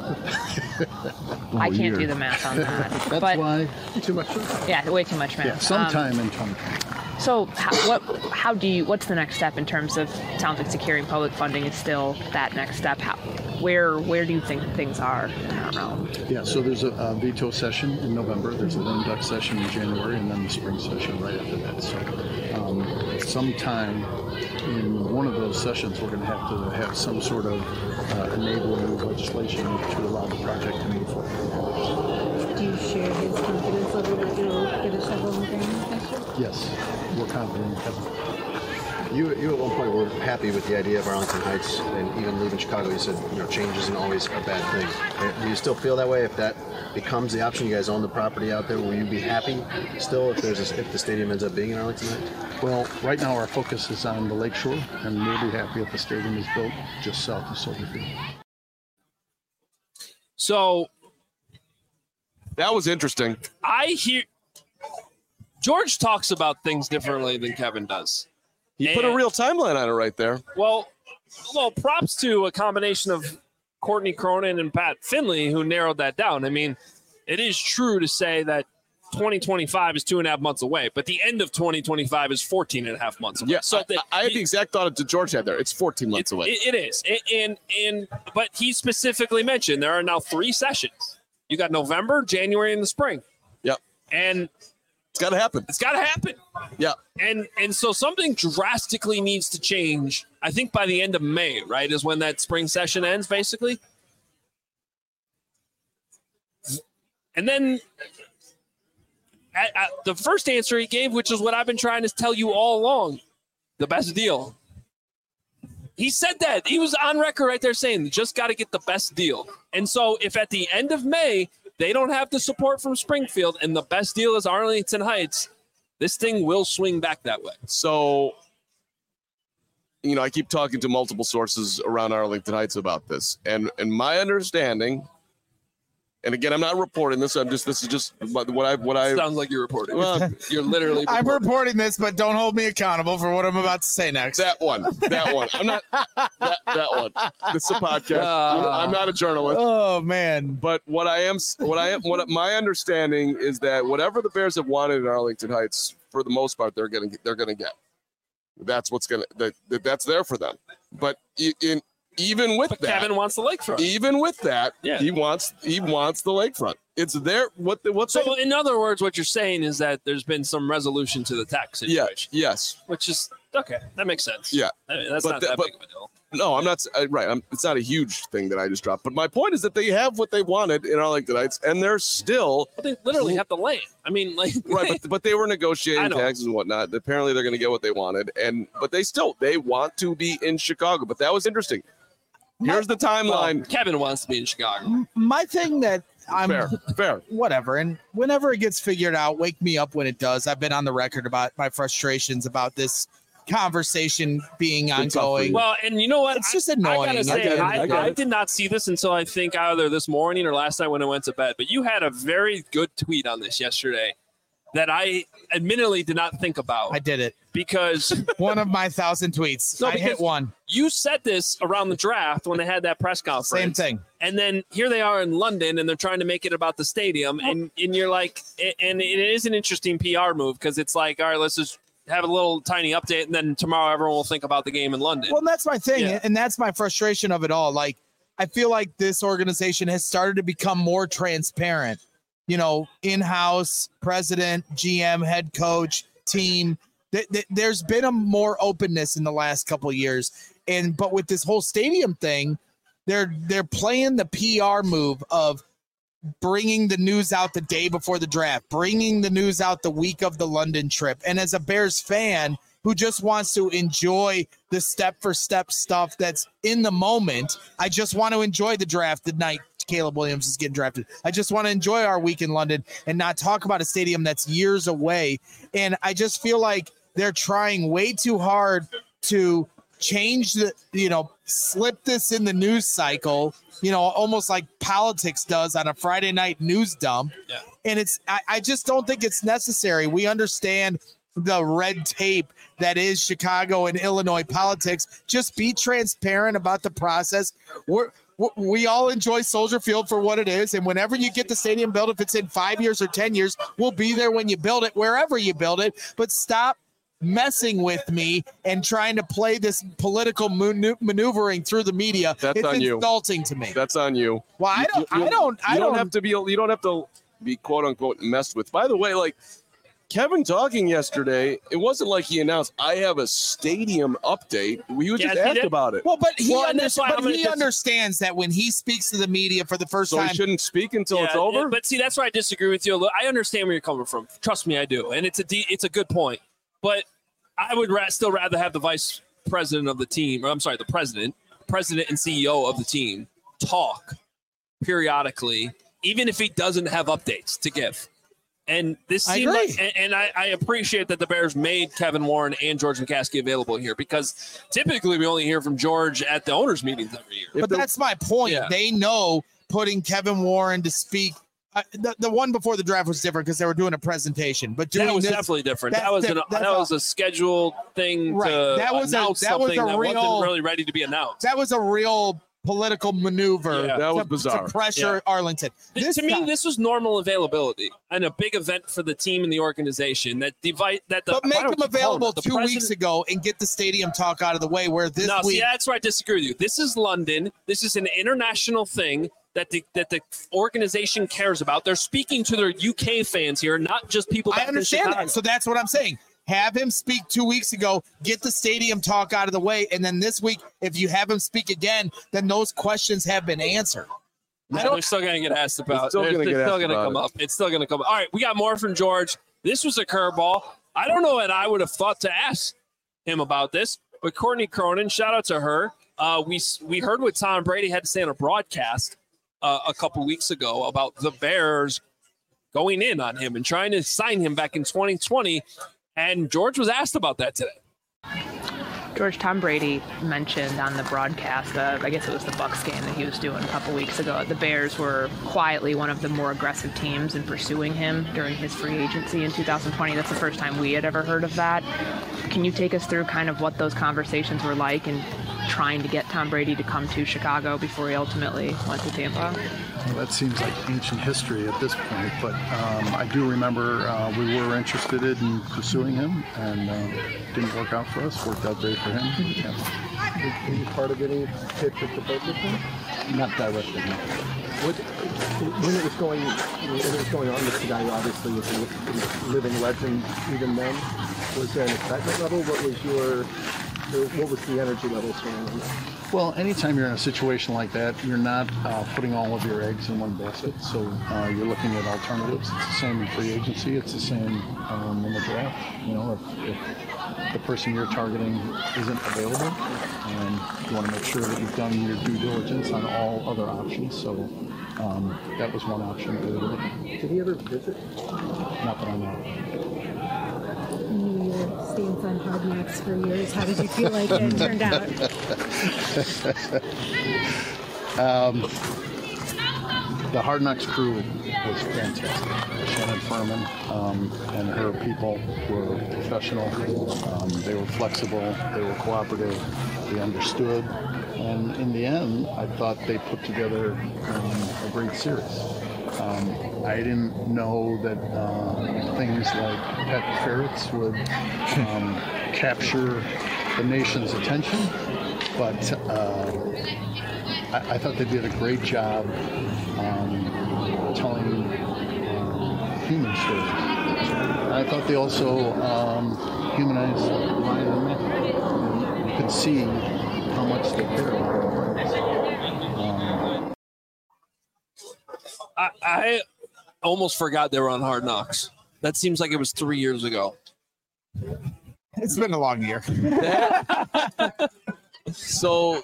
I can't do the math on that. That's why too much math. Yeah, way too much math. Yeah, sometime in 2020. So what's the next step in terms of, it sounds like securing public funding is still that next step. Where do you think things are in that realm? Yeah, so there's a veto session in November, there's a lame duck session in January, and then the spring session right after that. So sometime in one of those sessions, we're going to have some sort of enabling legislation to allow the project to move forward. Do you share his confidence level that you'll get a several things next year? Yes, we're confident in Kevin. You at one point were happy with the idea of Arlington Heights, and even leaving Chicago, you said change isn't always a bad thing. Do you still feel that way? If that becomes the option, you guys own the property out there, will you be happy still if the stadium ends up being in Arlington Heights? Well, right now our focus is on the lakeshore, and we'll be happy if the stadium is built just south of Soldier Field. So that was interesting. I hear George talks about things differently than Kevin does. He put a real timeline on it right there. Well, props to a combination of Courtney Cronin and Pat Finley who narrowed that down. I mean, it is true to say that 2025 is 2.5 months away, but the end of 2025 is 14.5 months away. Yeah, so I had the exact thought that George had there. It's 14 months away. It is. But he specifically mentioned there are now 3 sessions. You got November, January, and the spring. Yep. And it's got to happen. It's got to happen. Yeah. And so something drastically needs to change. I think by the end of May, right, is when that spring session ends, basically. And then the first answer he gave, which is what I've been trying to tell you all along, the best deal. He said that. He was on record right there saying, just got to get the best deal. And so if at the end of May, they don't have the support from Springfield, and the best deal is Arlington Heights, this thing will swing back that way. So, I keep talking to multiple sources around Arlington Heights about this. And my understanding, and again, I'm not reporting this. This is just what I sounds like you're reporting. Well, you're literally I'm reporting this, but don't hold me accountable for what I'm about to say next. That one. I'm not that one. This is a podcast. I'm not a journalist. Oh man. But what my understanding is that whatever the Bears have wanted in Arlington Heights, for the most part, they're gonna get. That's that's there for them. But even with that, Kevin wants the lakefront. Even with that, yeah. he wants the lakefront. It's there. So in other words, what you're saying is that there's been some resolution to the tax situation. Yes. Which is okay. That makes sense. Yeah. I mean, that's not that big of a deal. No, I'm not. Right. It's not a huge thing that I just dropped. But my point is that they have what they wanted in Arlington Heights, and they're still. But they literally have the land. I mean, right. But they were negotiating taxes and whatnot. Apparently, they're going to get what they wanted, but they want to be in Chicago. But that was interesting. Here's the timeline. Well, Kevin wants to be in Chicago. My thing that I'm fair. Whatever. And whenever it gets figured out, wake me up when it does. I've been on the record about my frustrations about this conversation being ongoing. Well, and you know what? It's just annoying. I gotta say, I did not see this until I think either this morning or last night when I went to bed. But you had a very good tweet on this yesterday that I admittedly did not think about. I did it. Because one of my 1,000 tweets. I hit one. You said this around the draft when they had that press conference. Same thing. And then here they are in London, and they're trying to make it about the stadium. And you're like, and it is an interesting PR move because it's like, all right, let's just have a little tiny update, and then tomorrow everyone will think about the game in London. Well, that's my thing, and that's my frustration of it all. Like, I feel like this organization has started to become more transparent. You know, in-house, president, GM, head coach, team. There's been a more openness in the last couple of years, but with this whole stadium thing, they're playing the PR move of bringing the news out the day before the draft, bringing the news out the week of the London trip. And as a Bears fan who just wants to enjoy the step-for-step stuff that's in the moment, I just want to enjoy the draft the night Caleb Williams is getting drafted. I just want to enjoy our week in London and not talk about a stadium that's years away. And I just feel like they're trying way too hard to change slip this in the news cycle, almost like politics does on a Friday night news dump. Yeah. And I just don't think it's necessary. We understand the red tape that is Chicago and Illinois politics. Just be transparent about the process. We all enjoy Soldier Field for what it is. And whenever you get the stadium built, if it's in 5 years or 10 years, we'll be there when you build it, wherever you build it. But stop messing with me and trying to play this political maneuvering through the media. It's on you. Insulting to me. That's on you. Well, you don't have to be quote unquote messed with. By the way, like Kevin talking yesterday, it wasn't like he announced, I have a stadium update. We just asked about it. Well, but he understands that when he speaks to the media for the first time. So he shouldn't speak until it's over? But see, that's where I disagree with you. I understand where you're coming from. Trust me, I do. And it's a good point. But I would still rather have the vice president of the team, the president and CEO of the team talk periodically, even if he doesn't have updates to give. And this seemed I appreciate that the Bears made Kevin Warren and George McCaskey available here because typically we only hear from George at the owners' meetings every year. But that's my point. Yeah. They know putting Kevin Warren to speak. The one before the draft was different because they were doing a presentation. But that was definitely different. That was a scheduled thing to announce something that wasn't really ready to be announced. That was a real political maneuver. Yeah, that was bizarre. To pressure Arlington. To me, this was normal availability and a big event for the team and the organization. But make them available 2 weeks ago and get the stadium talk out of the way. Where this week, see, that's where I disagree with you. This is London. This is an international thing that the organization cares about. They're speaking to their UK fans here, not just people. I understand that. So that's what I'm saying. Have him speak 2 weeks ago, get the stadium talk out of the way, and then this week, if you have him speak again, then those questions have been answered. They're still going to get asked about. It's still going to come up. It's still going to come up. All right, we got more from George. This was a curveball. I don't know what I would have thought to ask him about this, but Courtney Cronin, shout out to her. We heard what Tom Brady had to say on a broadcast a couple weeks ago about the Bears going in on him and trying to sign him back in 2020. And George was asked about that today. George, Tom Brady mentioned on the broadcast, I guess it was the Bucs game that he was doing a couple weeks ago, the Bears were quietly one of the more aggressive teams in pursuing him during his free agency in 2020. That's the first time we had ever heard of that. Can you take us through kind of what those conversations were like and trying to get Tom Brady to come to Chicago before he ultimately went to Tampa? Well, that seems like ancient history at this point, but I do remember we were interested in pursuing him, and didn't work out for us. Worked out great for him. Yeah. Were you part of getting pitched at the boat with him? Not directly, no. When it was going on, this guy obviously was a living legend even then. Was there an excitement level? What was your What was the energy level surrounding that? Well, anytime you're in a situation like that, you're not putting all of your eggs in one basket. So you're looking at alternatives. It's the same in free agency. It's the same in the draft. You know, if the person you're targeting isn't available, you want to make sure that you've done your due diligence on all other options. So that was one option that we were looking at. Did he ever visit? Not that I know. Your stance on Hard Knocks for years. How did you feel like it turned out? The Hard Knocks crew was fantastic. Shannon Furman and her people were professional. They were flexible. They were cooperative. They understood. And in the end, I thought they put together a great series. I didn't know that things like pet ferrets would capture the nation's attention, but I thought they did a great job telling human stories. I thought they also humanized Ryan and Mick. You could see how much they cared about it. I almost forgot they were on Hard Knocks. That seems like it was 3 years ago. It's been a long year. So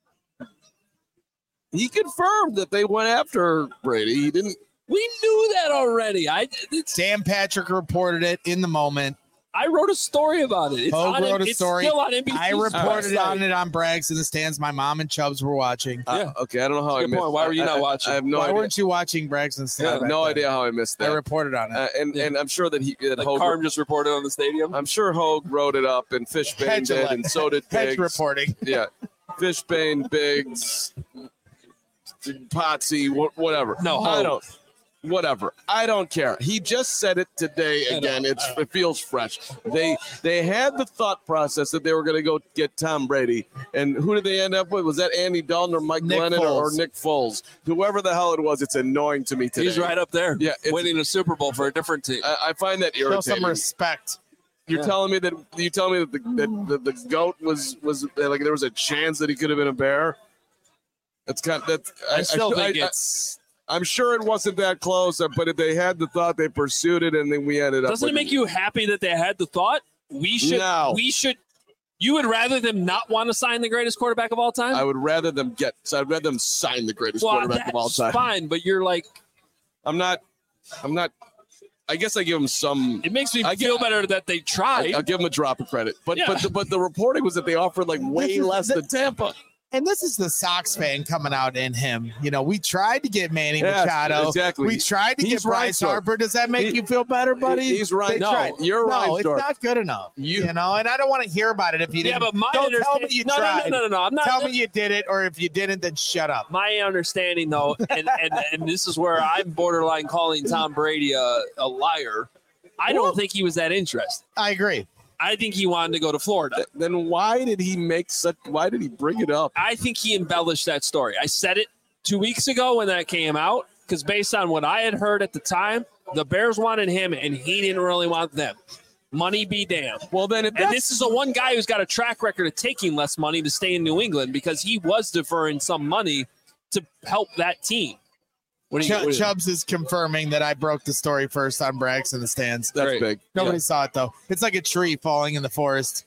he confirmed that they went after Brady. He didn't. We knew that already. Dan Patrick reported it in the moment. I wrote a story about it. Hogue wrote a story. Still on NBC. I reported on it on Brags in the Stands. My mom and Chubbs were watching. Okay, I don't know how I missed. Why were you not watching? I have no Why idea. weren't you watching Brags in the Stands? I have no idea how I missed that. I reported on it. And I'm sure that Hogue, Carm just reported on the stadium. I'm sure Hogue wrote it up, and Fishbane did, and so did Hedge Biggs. reporting. Yeah, Fishbane, Biggs, Potsy, whatever. No, I Hogue. don't. Whatever. I don't care. He just said it today again. It feels fresh. They had the thought process that they were going to go get Tom Brady. And who did they end up with? Was that Andy Dalton or Mike Nick Glennon or Foles. Nick Foles? Whoever the hell it was, it's annoying to me today. He's right up there. Yeah, winning a Super Bowl for a different team. I find that Show irritating. some respect. You're telling me that the goat was like there was a chance that he could have been a bear. That's kind of that's. I still think it's. I'm sure it wasn't that close, but if they had the thought, they pursued it, and then we ended up. Doesn't it make you happy that they had the thought? We should. No. We should. You would rather them not want to sign the greatest quarterback of all time? I would rather them I'd rather them sign the greatest quarterback of all time. That's fine, but you're like. I'm not. I guess I give them some. It makes me feel better that they tried. I'll give them a drop of credit, but the reporting was that they offered like way less than Tampa. And this is the Sox fan coming out in him. You know, we tried to get Manny Machado. Exactly. We tried to get Bryce Harper. Does that make you feel better, buddy? He's right. You're right. right. It's not good enough. You know, and I don't want to hear about it if you didn't. Yeah, but my don't tell me you tried. No. I'm not. Tell me you did it, or if you didn't, then shut up. My understanding, though, and this is where I'm borderline calling Tom Brady a liar. I don't think he was that interested. I agree. I think he wanted to go to Florida. Then why did he bring it up? I think he embellished that story. I said it 2 weeks ago when that came out, because based on what I had heard at the time, the Bears wanted him and he didn't really want them. Money be damned. Well, then, and this is the one guy who's got a track record of taking less money to stay in New England because he was deferring some money to help that team. Chubbs is confirming that I broke the story first on Brags in the Stands. That's big. Nobody saw it, though. It's like a tree falling in the forest.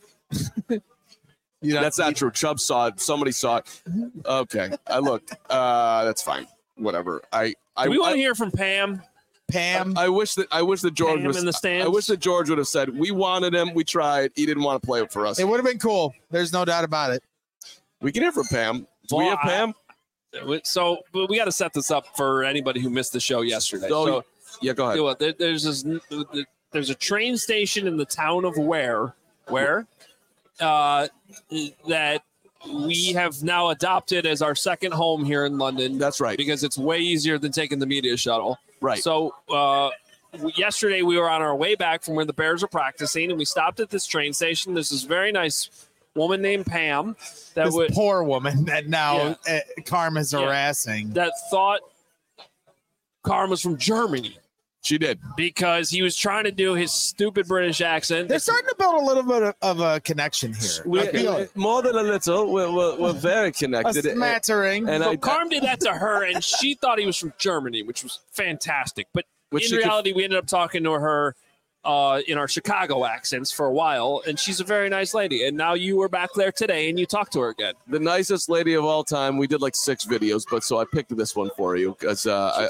That's not true. Chubb saw it. Somebody saw it. Okay. I looked. That's fine. Whatever. Do we want to hear from Pam? I wish that George was in the stands. I wish that George would have said, we wanted him. We tried. He didn't want to play it for us. It would have been cool. There's no doubt about it. We can hear from Pam. Do we have Pam? So we got to set this up for anybody who missed the show yesterday. So yeah, go ahead. There's a train station in the town of Ware that we have now adopted as our second home here in London. That's right. Because it's way easier than taking the media shuttle. Right. So yesterday we were on our way back from where the Bears are practicing, and we stopped at this train station. There's this very nice woman named Pam. Poor woman that now Karma's harassing. That thought Karma's from Germany. She did. Because he was trying to do his stupid British accent. They're starting to build a little bit of a connection here. More than a little. We're very connected. A smattering. And so Carm did that to her, and she thought he was from Germany, which was fantastic. But in reality, we ended up talking to her in our Chicago accents for a while, and she's a very nice lady. And now you were back there today, and you talked to her again. The nicest lady of all time. We did like 6 videos, but so I picked this one for you because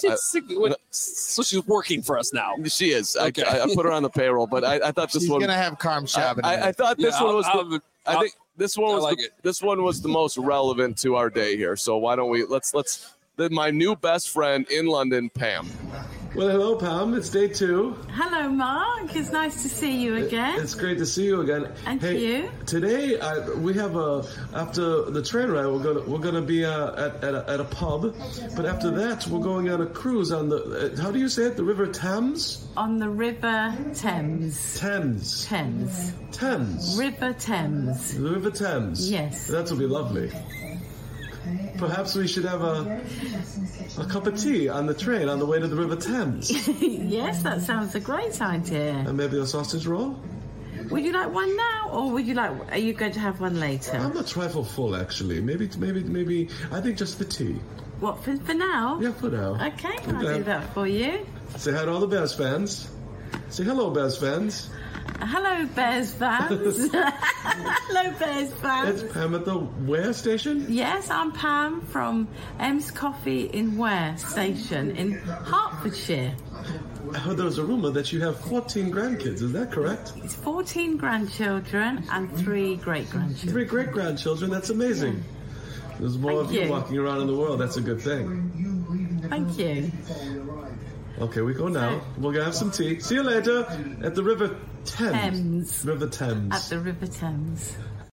so she's working for us now. She is. Okay. I put her on the payroll, but I thought this one. She's gonna have Carm shopping. I thought this one was. I think this one was. This one was the most relevant to our day here. So why don't we let's my new best friend in London, Pam. Well, hello, Pam. It's day 2. Hello, Mark. It's nice to see you again. It's great to see you again. And you. Today we have after the train ride, we're gonna be at a pub, but after that we're going on a cruise on the how do you say it? The River Thames. On the River Thames. Thames. Thames. Thames. River Thames. The River Thames. Yes. That will be lovely. Perhaps we should have a cup of tea on the train on the way to the River Thames. Yes, that sounds a great idea. And maybe a sausage roll? Would you like one now, or are you going to have one later? I'm a trifle full, actually. Maybe. I think just the tea. What, for now? Yeah, for now. Okay, I'll do that for you. Say hi to all the Bears fans. Say hello, Bears fans. Hello, Bears fans. Hello, Bears fans. It's Pam at the Ware station? Yes, I'm Pam from M's Coffee in Ware Station in Hertfordshire. I heard there was a rumor that you have 14 grandkids. Is that correct? It's 14 grandchildren and 3 great-grandchildren. 3 great-grandchildren? That's amazing. Yeah. There's more of you walking around in the world. That's a good thing. Thank you. Okay, we go now. We're going to have some tea. See you later at the River Thames. River Thames. At the River Thames.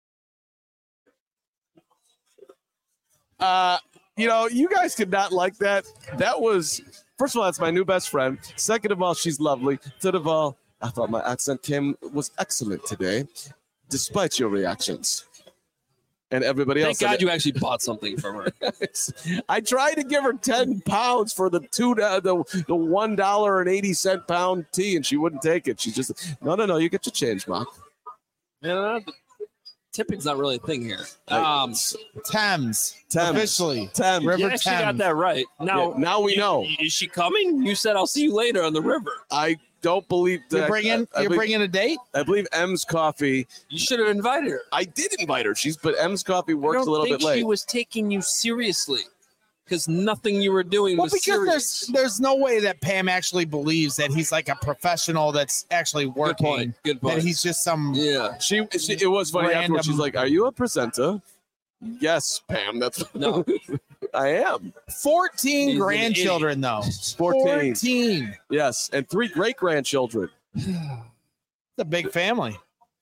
You guys could not like that. That was, first of all, that's my new best friend. Second of all, she's lovely. Third of all, I thought my accent was excellent today, despite your reactions. And everybody else. Thank God you actually bought something from her. I tried to give her £10 for the $1.80 pound tea, and she wouldn't take it. She's just no. You get your change, Mark. Yeah, tipping's not really a thing here. Thames. Officially. Thames. River You actually Thames. got that right. Now we know. Is she coming? You said I'll see you later on the river. I don't believe that. You're bringing a date? I believe M's Coffee. You should have invited her. I did invite her. But M's Coffee works a little bit late. She was taking you seriously because nothing you were doing was serious. There's no way that Pam actually believes that he's like a professional that's actually working. Good point. That he's just some. Yeah. It was funny afterwards. She's like, "Are you a presenter?" Yes, Pam. That's no. I am. 14 grandchildren, though. 14. Yes, and 3 great-grandchildren. It's a big family.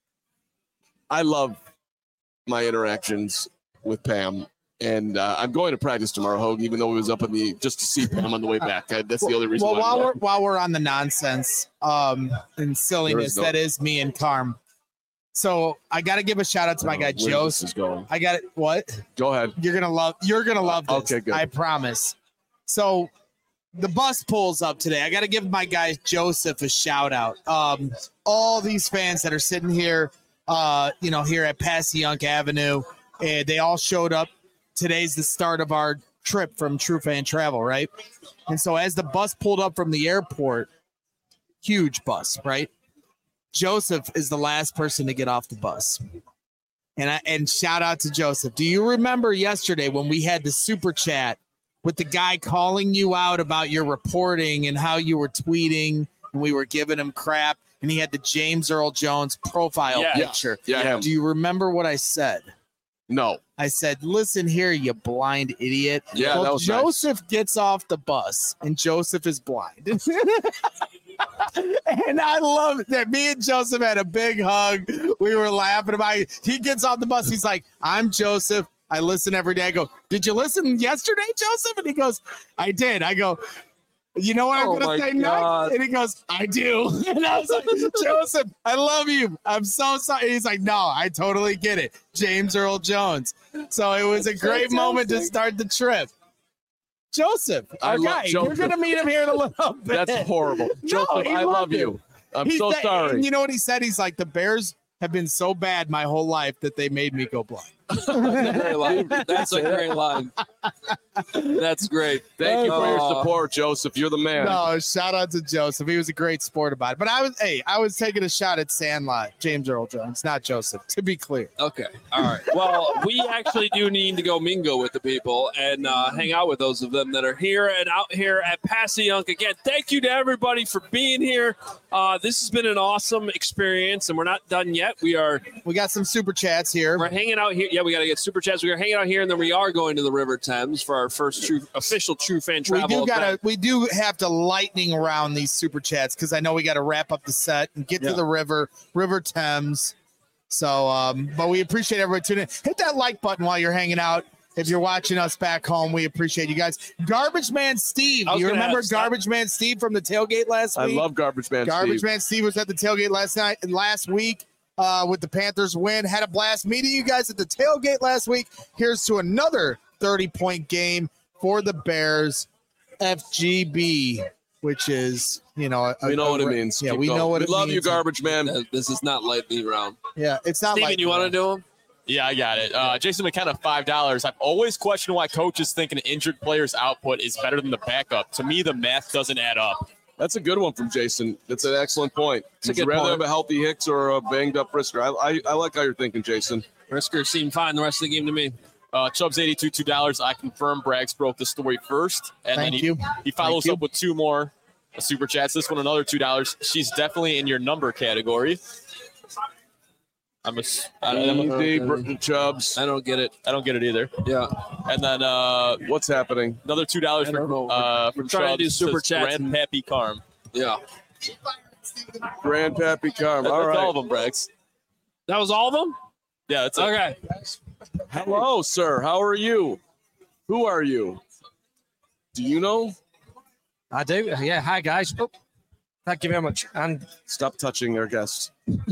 I love my interactions with Pam, and I'm going to practice tomorrow, Hogue, even though we was up just to see Pam on the way back. That's the other reason. Well, while we're on the nonsense and silliness, that is me and Carm. So I got to give a shout out to my guy Joseph. I got it. What? Go ahead. You're gonna love this. Okay, good. I promise. So the bus pulls up today. I got to give my guy Joseph a shout out. All these fans that are sitting here, here at Passyunk Avenue, they all showed up. Today's the start of our trip from True Fan Travel, right? And so as the bus pulled up from the airport, huge bus, right? Joseph is the last person to get off the bus. And shout out to Joseph. Do you remember yesterday when we had the super chat with the guy calling you out about your reporting and how you were tweeting and we were giving him crap and he had the James Earl Jones profile picture? Yeah. Do you remember what I said? No. I said, listen here, you blind idiot. Yeah, that was Joseph gets off the bus and Joseph is blind. And I love that me and Joseph had a big hug. We were laughing about it. He gets off the bus. He's like, I'm Joseph. I listen every day. I go, did you listen yesterday, Joseph? And he goes, I did. I go, you know what I'm going to say next? And he goes, I do. And I was like, Joseph, I love you. I'm so sorry. He's like, no, I totally get it. James Earl Jones. So it was a great moment to start the trip. Joseph, our guy. You're going to meet him here in a little bit. That's horrible. Joseph, I love you. I'm so sorry. And you know what he said? He's like, the Bears have been so bad my whole life that they made me go blind. That's a great line. That's great. Thank you for your support, Joseph. You're the man. No, shout out to Joseph. He was a great sport about it. But I was taking a shot at Sandlot, James Earl Jones, not Joseph, to be clear. Okay. All right. Well, we actually do need to go mingle with the people and hang out with those of them that are here and out here at Passyunk. Again, thank you to everybody for being here. This has been an awesome experience, and we're not done yet. We got some super chats here. We're hanging out here. Yeah, we got to get super chats. We are hanging out here, and then we are going to the River Thames for our first official True Fan Travel. We do have to lightning around these super chats because I know we got to wrap up the set and get to the River Thames. So, but we appreciate everybody tuning in. Hit that like button while you're hanging out. If you're watching us back home, we appreciate you guys. Garbage Man Steve. You remember Garbage Man Steve from the tailgate last week? I love Garbage Man Steve. Garbage Man Steve was at the tailgate last week. With the Panthers win. Had a blast meeting you guys at the tailgate last week. Here's to another 30-point game for the Bears. FGB, which is, we know what it means. Yeah, we know what it means. We love you, Garbage Man. This is not lightning round. Yeah, it's not Steven, you want to do them? Yeah, I got it. Jason McKenna, $5. I've always questioned why coaches think an injured player's output is better than the backup. To me, the math doesn't add up. That's a good one from Jason. That's an excellent point. Would you rather rather have a healthy Hicks or a banged-up Brisker? I like how you're thinking, Jason. Brisker seemed fine the rest of the game to me. Chubbs 82, $2. I confirm Braggs broke the story first. And Thank then you. He follows up with two more super chats. This one, another $2. She's definitely in your number category. Easy, Chubbs. I don't get it. I don't get it either. Yeah. And then what's happening? Another $2 from trying to do Chubbs. super chats. Grandpappy Carm. Yeah. Grandpappy Carm. All That's right. all of them, Braggs. That was all of them? Yeah, that's it. Okay. Hello, sir. How are you? Who are you? Do you know? I do. Yeah. Hi, guys. Oh, thank you very much. And stop touching our guests.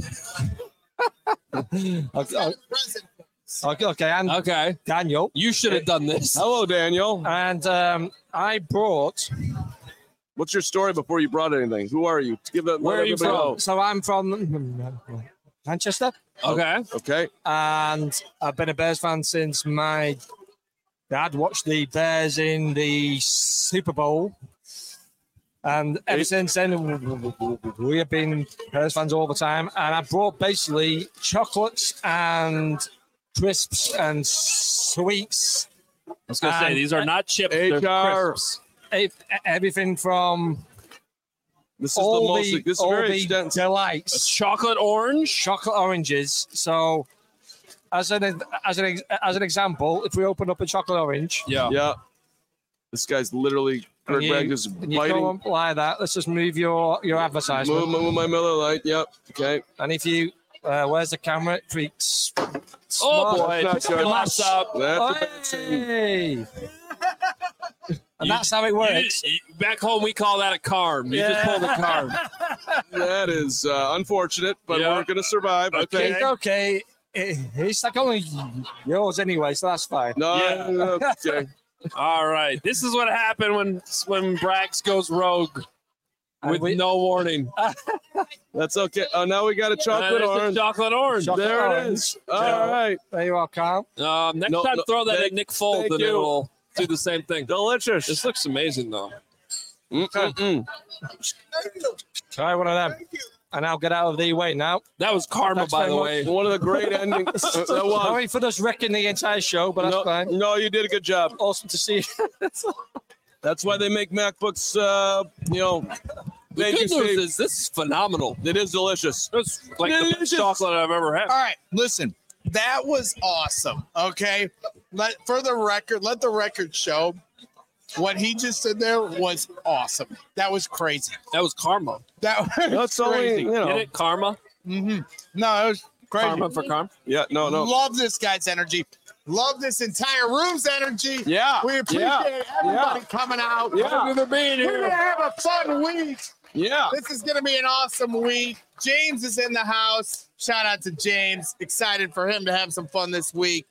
Okay. And okay. Daniel. You should have done this. Hello, Daniel. And I brought. What's your story before you brought anything? Who are you? Where are you from? So I'm from Manchester. Okay. Okay. And I've been a Bears fan since my dad watched the Bears in the Super Bowl. And ever since then, we have been Bears fans all the time. And I brought basically chocolates and crisps and sweets. I was going to say, these are not chips, they're crisps. Everything from this is all very extensive. Delights. Chocolate orange? Chocolate oranges. So as an example, if we open up a chocolate orange. Yeah. This guy's literally Greg Bragg is and you biting. go up like that. Let's just move your advertisement. Move my Miller Lite. Yep. Okay. And if you where's the camera? It freaks. Oh boy! That's Your laptop. Hey. And that's how it works. Back home, we call that a carm. You just pull the carm. That is unfortunate, but we're going to survive. Okay. It's okay. It's like only yours anyway, so that's fine. No, okay. All right. This is what happened when Braggs goes rogue with no warning. That's okay. Oh, now we got a chocolate orange. Chocolate orange. There it is. All right. There you are, Carl. Next time, throw that at Nick Foles, and it will do the same thing. Delicious. This looks amazing, though. Try one of them. And I'll get out of the way now. That was karma, by the way. One of the great endings. Sorry for just wrecking the entire show, but that's fine. No, you did a good job. Awesome to see you. That's why they make MacBooks, The good news is this is phenomenal. It is delicious. It's like the best chocolate I've ever had. All right, listen. That was awesome. Okay. Let the record show what he just said there was awesome. That was crazy. That was karma. That's crazy. Only, Get it? Karma? Mm-hmm. No, it was crazy. Karma for karma? Yeah, no. Love this guy's energy. Love this entire room's energy. Yeah. We appreciate everybody coming out. Yeah. Thank you for being here. We're going to have a fun week. Yeah. This is going to be an awesome week. James is in the house. Shout out to James. Excited for him to have some fun this week.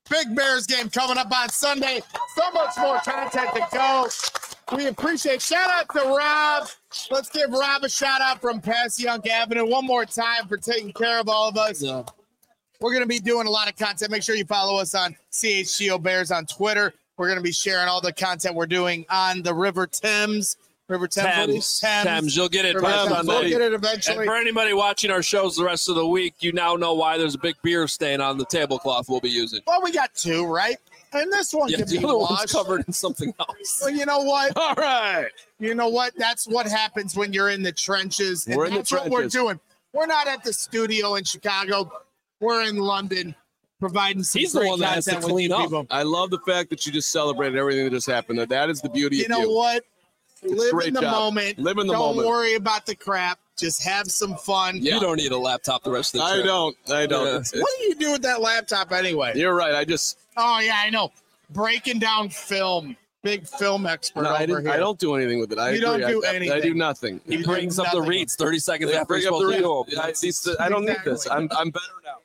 Big Bears game coming up on Sunday. So much more content to go. We appreciate. Shout out to Rob. Let's give Rob a shout out from Passyunk Avenue one more time for taking care of all of us. Yeah. We're going to be doing a lot of content. Make sure you follow us on CHGO Bears on Twitter. We're going to be sharing all the content we're doing on the River Thames. Thames. You'll get it. We'll get it eventually. And for anybody watching our shows the rest of the week, you now know why there's a big beer stain on the tablecloth we'll be using. Well, we got two, right? And this one can be washed. Covered in something else. Well, you know what? All right. You know what? That's what happens when you're in the trenches. And that's what we're doing. We're not at the studio in Chicago. We're in London providing some He's the one that has to clean up. People. I love the fact that you just celebrated everything that just happened. That is the beauty of you. You know what? Live in the moment. Live in the moment. Don't worry about the crap. Just have some fun. Yeah. You don't need a laptop the rest of the trip. I don't. Yeah. What do you do with that laptop anyway? You're right. Oh, yeah, I know. Breaking down film. Big film expert over here. I don't do anything with it. You don't do anything. I do nothing. He brings up the reads 30 seconds after he's supposed to do them. I don't need this. I'm better now.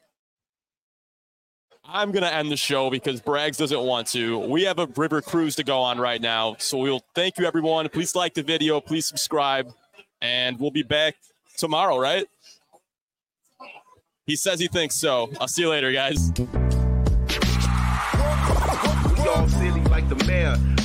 I'm going to end the show because Braggs doesn't want to. We have a river cruise to go on right now. So we'll thank you, everyone. Please like the video. Please subscribe. And we'll be back tomorrow, right? He says he thinks so. I'll see you later, guys. All silly like the mayor.